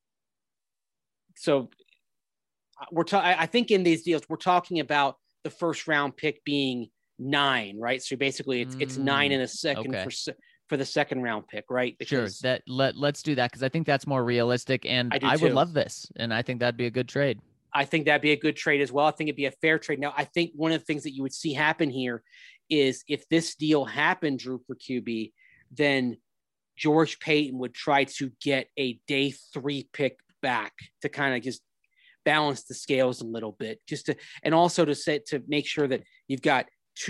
I think in these deals, we're talking about the first round pick being 9, right? So basically it's 9 and a second for the second round pick, right? Because sure. Let's do that because I think that's more realistic, and I would love this, and I think that'd be a good trade. I think that'd be a good trade as well. I think it'd be a fair trade. Now, I think one of the things that you would see happen here is if this deal happened, Drew, for QB, then George Payton would try to get a day 3 pick back to kind of just balance the scales a little bit, and also to make sure that you got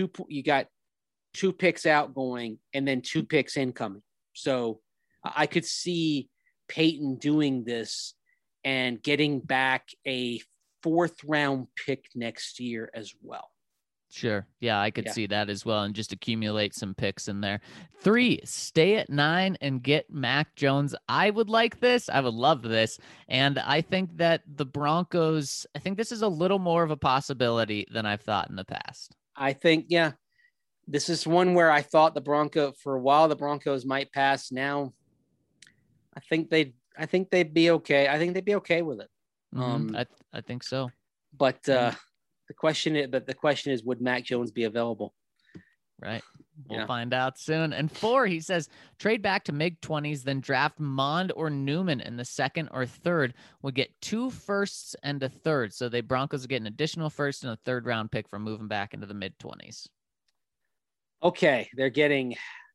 2 picks outgoing and then 2 picks incoming. So I could see Payton doing this and getting back a 4th round pick next year as well. Sure. Yeah, I could see that as well and just accumulate some picks in there. 3, stay at 9 and get Mac Jones. I would like this. I would love this. And I think that the Broncos, I think this is a little more of a possibility than I've thought in the past. I think, this is one where I thought for a while, the Broncos might pass. Now, I think they'd be okay. I think they'd be okay with it. I think so. But the question is, would Mac Jones be available? Right. We'll find out soon. And 4, he says, trade back to mid-20s, then draft Mond or Newman in the 2nd or 3rd. We'll get 2 firsts and a 3rd. So the Broncos get an additional 1st and a 3rd round pick for moving back into the mid-20s. Okay, they're getting.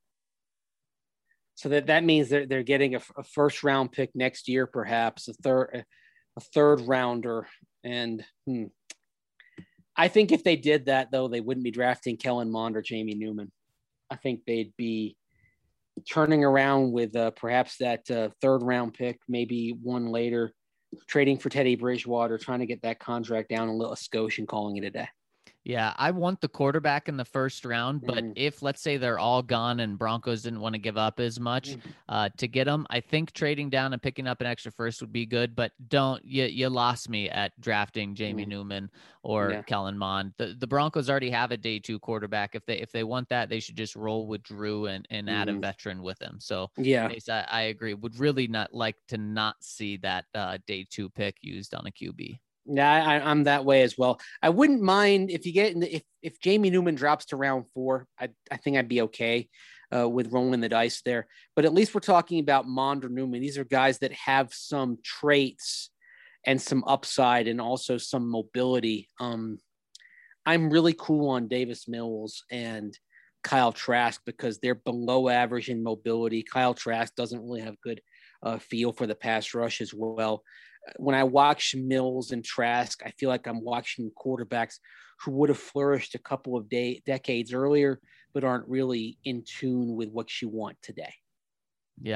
So that means they're getting a 1st round pick next year, perhaps a 3rd rounder, and I think if they did that, though, they wouldn't be drafting Kellen Mond or Jamie Newman. I think they'd be turning around with perhaps that 3rd round pick, maybe one later, trading for Teddy Bridgewater, trying to get that contract down a little skosh and calling it a day. Yeah, I want the quarterback in the 1st round, but if, let's say, they're all gone and Broncos didn't want to give up as much to get them, I think trading down and picking up an extra 1st would be good, but you lost me at drafting Jamie Newman or Kellen Mond. The Broncos already have a day 2 quarterback. If they want that, they should just roll with Drew and add a veteran with him. So I agree. Would really not like to not see that day 2 pick used on a QB. Yeah, I'm that way as well. I wouldn't mind if you get if Jamie Newman drops to round 4. I think I'd be okay with rolling the dice there. But at least we're talking about Mond or Newman. These are guys that have some traits and some upside and also some mobility. I'm really cool on Davis Mills and Kyle Trask because they're below average in mobility. Kyle Trask doesn't really have good feel for the pass rush as well. When I watch Mills and Trask, I feel like I'm watching quarterbacks who would have flourished a couple of decades earlier, but aren't really in tune with what you want today. Yeah,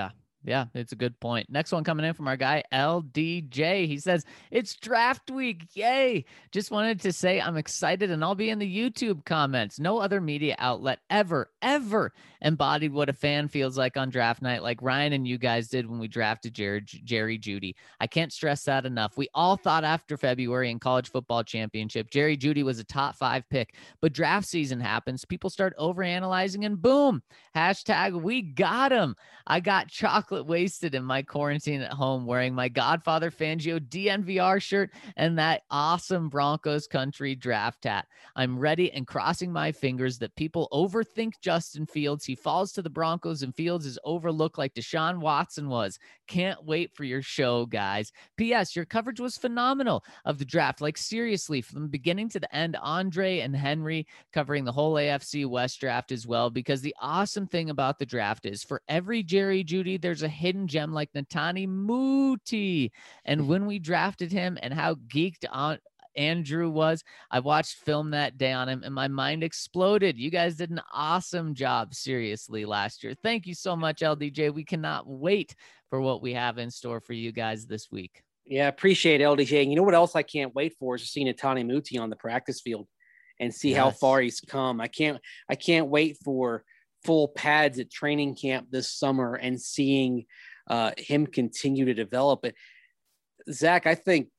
Yeah, it's a good point. Next one coming in from our guy, LDJ. He says, it's draft week. Yay. Just wanted to say I'm excited and I'll be in the YouTube comments. No other media outlet ever embodied what a fan feels like on draft night like Ryan and you guys did when we drafted Jerry Jeudy. I can't stress that enough. We all thought after February in college football championship, Jerry Jeudy was a top 5 pick, but draft season happens. People start overanalyzing and boom, hashtag we got him. I got chocolate wasted in my quarantine at home wearing my Godfather Fangio DNVR shirt and that awesome Broncos country draft hat. I'm ready and crossing my fingers that people overthink Justin Fields. He falls to the Broncos and Fields is overlooked like Deshaun Watson was. Can't wait for your show, guys. P.S. Your coverage was phenomenal of the draft. Like seriously, from the beginning to the end, Andre and Henry covering the whole AFC West draft as well, because the awesome thing about the draft is for every Jerry Jeudy, there's a hidden gem like Netani Muti. And when we drafted him and how geeked on Andrew was, I watched film that day on him and my mind exploded. You guys did an awesome job, seriously, last year. Thank you so much, LDJ. We cannot wait for what we have in store for you guys this week. Yeah, appreciate it, LDJ. And you know what else I can't wait for is to see Netani Muti on the practice field and see how far he's come. I can't wait for full pads at training camp this summer and seeing him continue to develop it. Zach, I think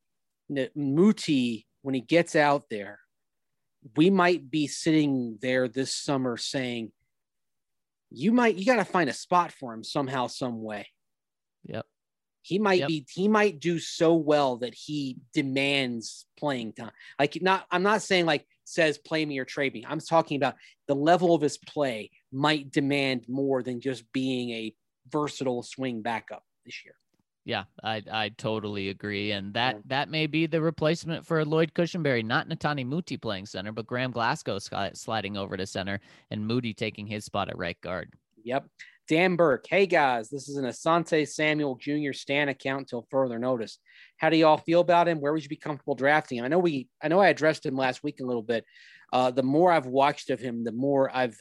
Muti, when he gets out there, we might be sitting there this summer saying, you got to find a spot for him somehow, some way. Yep. He might do so well that he demands playing time. I'm not saying like says play me or trade me. I'm talking about the level of his play might demand more than just being a versatile swing backup this year. Yeah, I totally agree. And that may be the replacement for Lloyd Cushenberry, not Netani Muti playing center, but Graham Glasgow sliding over to center and Moody taking his spot at right guard. Yep. Dan Burke. Hey guys, this is an Asante Samuel Jr. Stan account until further notice. How do y'all feel about him? Where would you be comfortable drafting him? I know I addressed him last week a little bit. The more I've watched of him, the more I've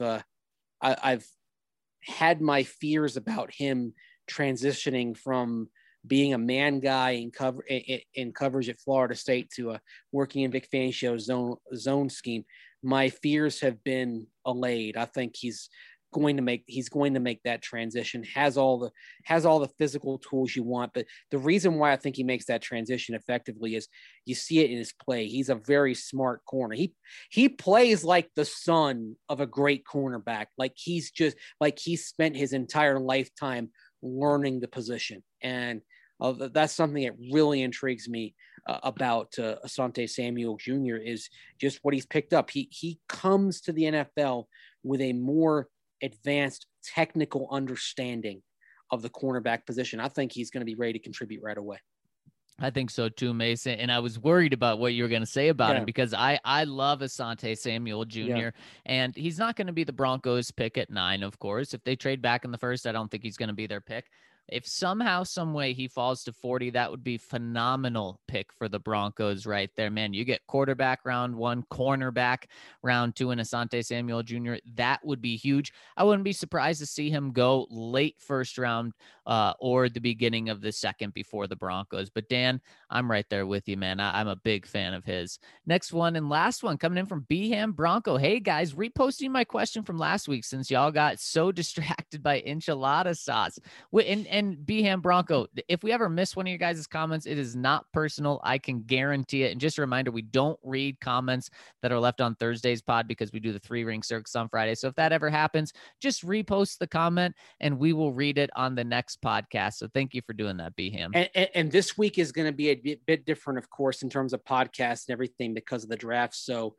had my fears about him transitioning from being a man guy in coverage at Florida State to working in Vic Fangio's zone scheme. My fears have been allayed. I think he's going to make that transition, has all the physical tools you want. But the reason why I think he makes that transition effectively is you see it in his play. He's a very smart corner. He plays like the son of a great cornerback. Like he's spent his entire lifetime learning the position. And that's something that really intrigues me about Asante Samuel Jr. is just what he's picked up. He comes to the NFL with a more advanced technical understanding of the cornerback position. I think he's going to be ready to contribute right away. I think so too, Mason. And I was worried about what you were going to say about him because I love Asante Samuel Jr. And he's not going to be the Broncos pick at 9, of course. If they trade back in the first, I don't think he's going to be their pick. If somehow, some way he falls to 40, that would be phenomenal pick for the Broncos right there, man. You get quarterback round 1, cornerback round 2, and Asante Samuel Jr. That would be huge. I wouldn't be surprised to see him go late first round or the beginning of the second before the Broncos. But Dan, I'm right there with you, man. I'm a big fan of his. Next one and last one coming in from Beham Bronco. Hey guys, reposting my question from last week since y'all got so distracted by enchilada sauce. And Beham Bronco, if we ever miss one of your guys' comments, it is not personal. I can guarantee it. And just a reminder, we don't read comments that are left on Thursday's pod because we do the 3-ring circus on Friday. So if that ever happens, just repost the comment and we will read it on the next podcast. So thank you for doing that, Beham. And this week is going to be a bit different, of course, in terms of podcasts and everything because of the draft. So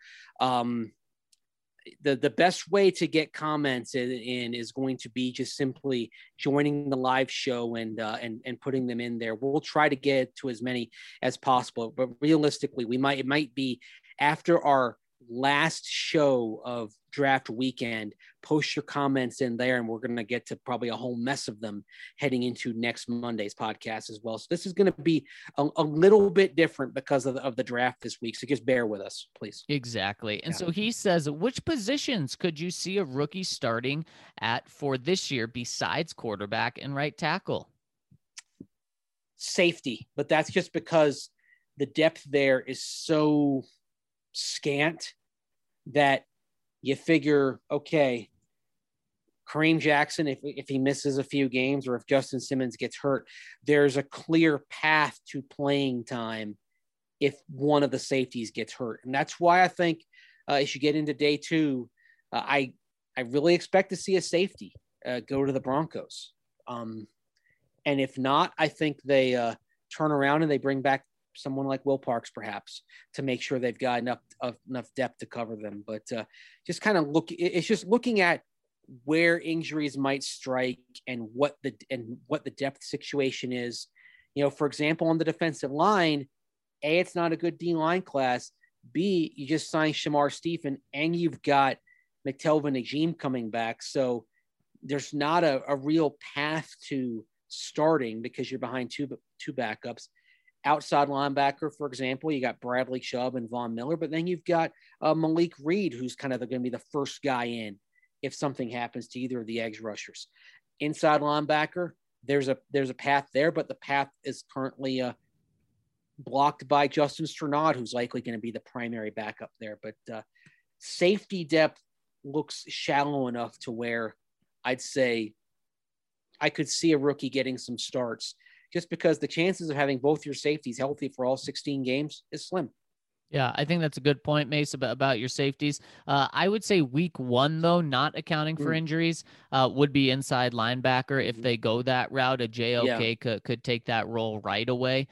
the best way to get comments in is going to be just simply joining the live show and putting them in there. We'll try to get to as many as possible, but realistically, it might be after our last show of draft weekend. Post your comments in there, and we're going to get to probably a whole mess of them heading into next Monday's podcast as well. So this is going to be a little bit different because of the draft this week. So just bear with us, please. Exactly. And so he says, which positions could you see a rookie starting at for this year besides quarterback and right tackle? safety, but that's just because the depth there is so scant that you figure, okay, Kareem Jackson, if he misses a few games or if Justin Simmons gets hurt, there's a clear path to playing time if one of the safeties gets hurt. And that's why I think as you get into day 2, I really expect to see a safety go to the Broncos. And if not, I think they turn around and they bring back someone like Will Parks, perhaps, to make sure they've got enough depth to cover them. But just kind of it's just looking at where injuries might strike and what the depth situation is. You know, for example, on the defensive line, A, it's not a good D-line class. B, you just signed Shamar Stephen and you've got McTelvin Najim coming back. So there's not a real path to starting because you're behind two backups. Outside linebacker, for example, you got Bradley Chubb and Von Miller, but then you've got Malik Reed, who's kind of going to be the first guy in if something happens to either of the edge rushers. Inside linebacker, there's a path there, but the path is currently blocked by Justin Strnad, who's likely going to be the primary backup there. But safety depth looks shallow enough to where I'd say I could see a rookie getting some starts just because the chances of having both your safeties healthy for all 16 games is slim. Yeah, I think that's a good point, Mace, about your safeties. I would say week 1, though, not accounting for injuries, would be inside linebacker. If they go that route, a JOK could take that role right away.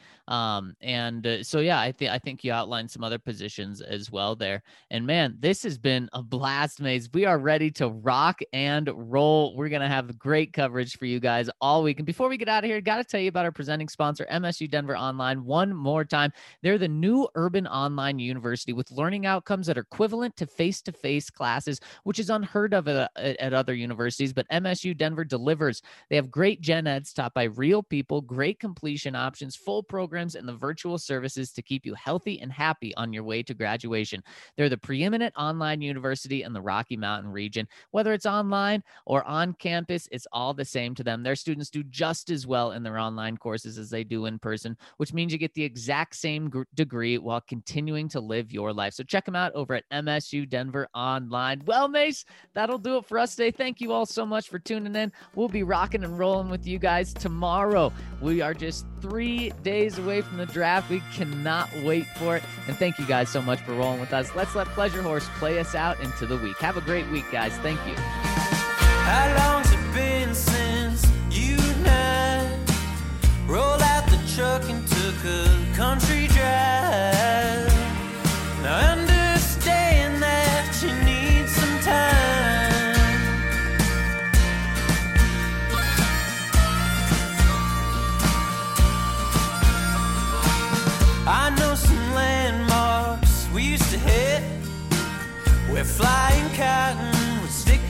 So, yeah, I think you outlined some other positions as well there. And, man, this has been a blast, Mace. We are ready to rock and roll. We're going to have great coverage for you guys all week. And before we get out of here, got to tell you about our presenting sponsor, MSU Denver Online, one more time. They're the new urban online university with learning outcomes that are equivalent to face-to-face classes, which is unheard of at other universities, but MSU Denver delivers. They have great gen eds taught by real people, great completion options, full programs, and the virtual services to keep you healthy and happy on your way to graduation. They're the preeminent online university in the Rocky Mountain region. Whether it's online or on campus, it's all the same to them. Their students do just as well in their online courses as they do in person, which means you get the exact same degree while continuing to live your life. So check them out over at MSU Denver Online. Well, Mace, that'll do it for us today. Thank you all so much for tuning in. We'll be rocking and rolling with you guys tomorrow. We are just 3 days away from the draft. We cannot wait for it. And thank you guys so much for rolling with us. Let's let Pleasure Horse play us out into the week. Have a great week, guys. Thank you. How long's it been since you and I rolled out the truck and took a country drive? Now I understand that you need some time. I know some landmarks we used to hit where flying cotton would stick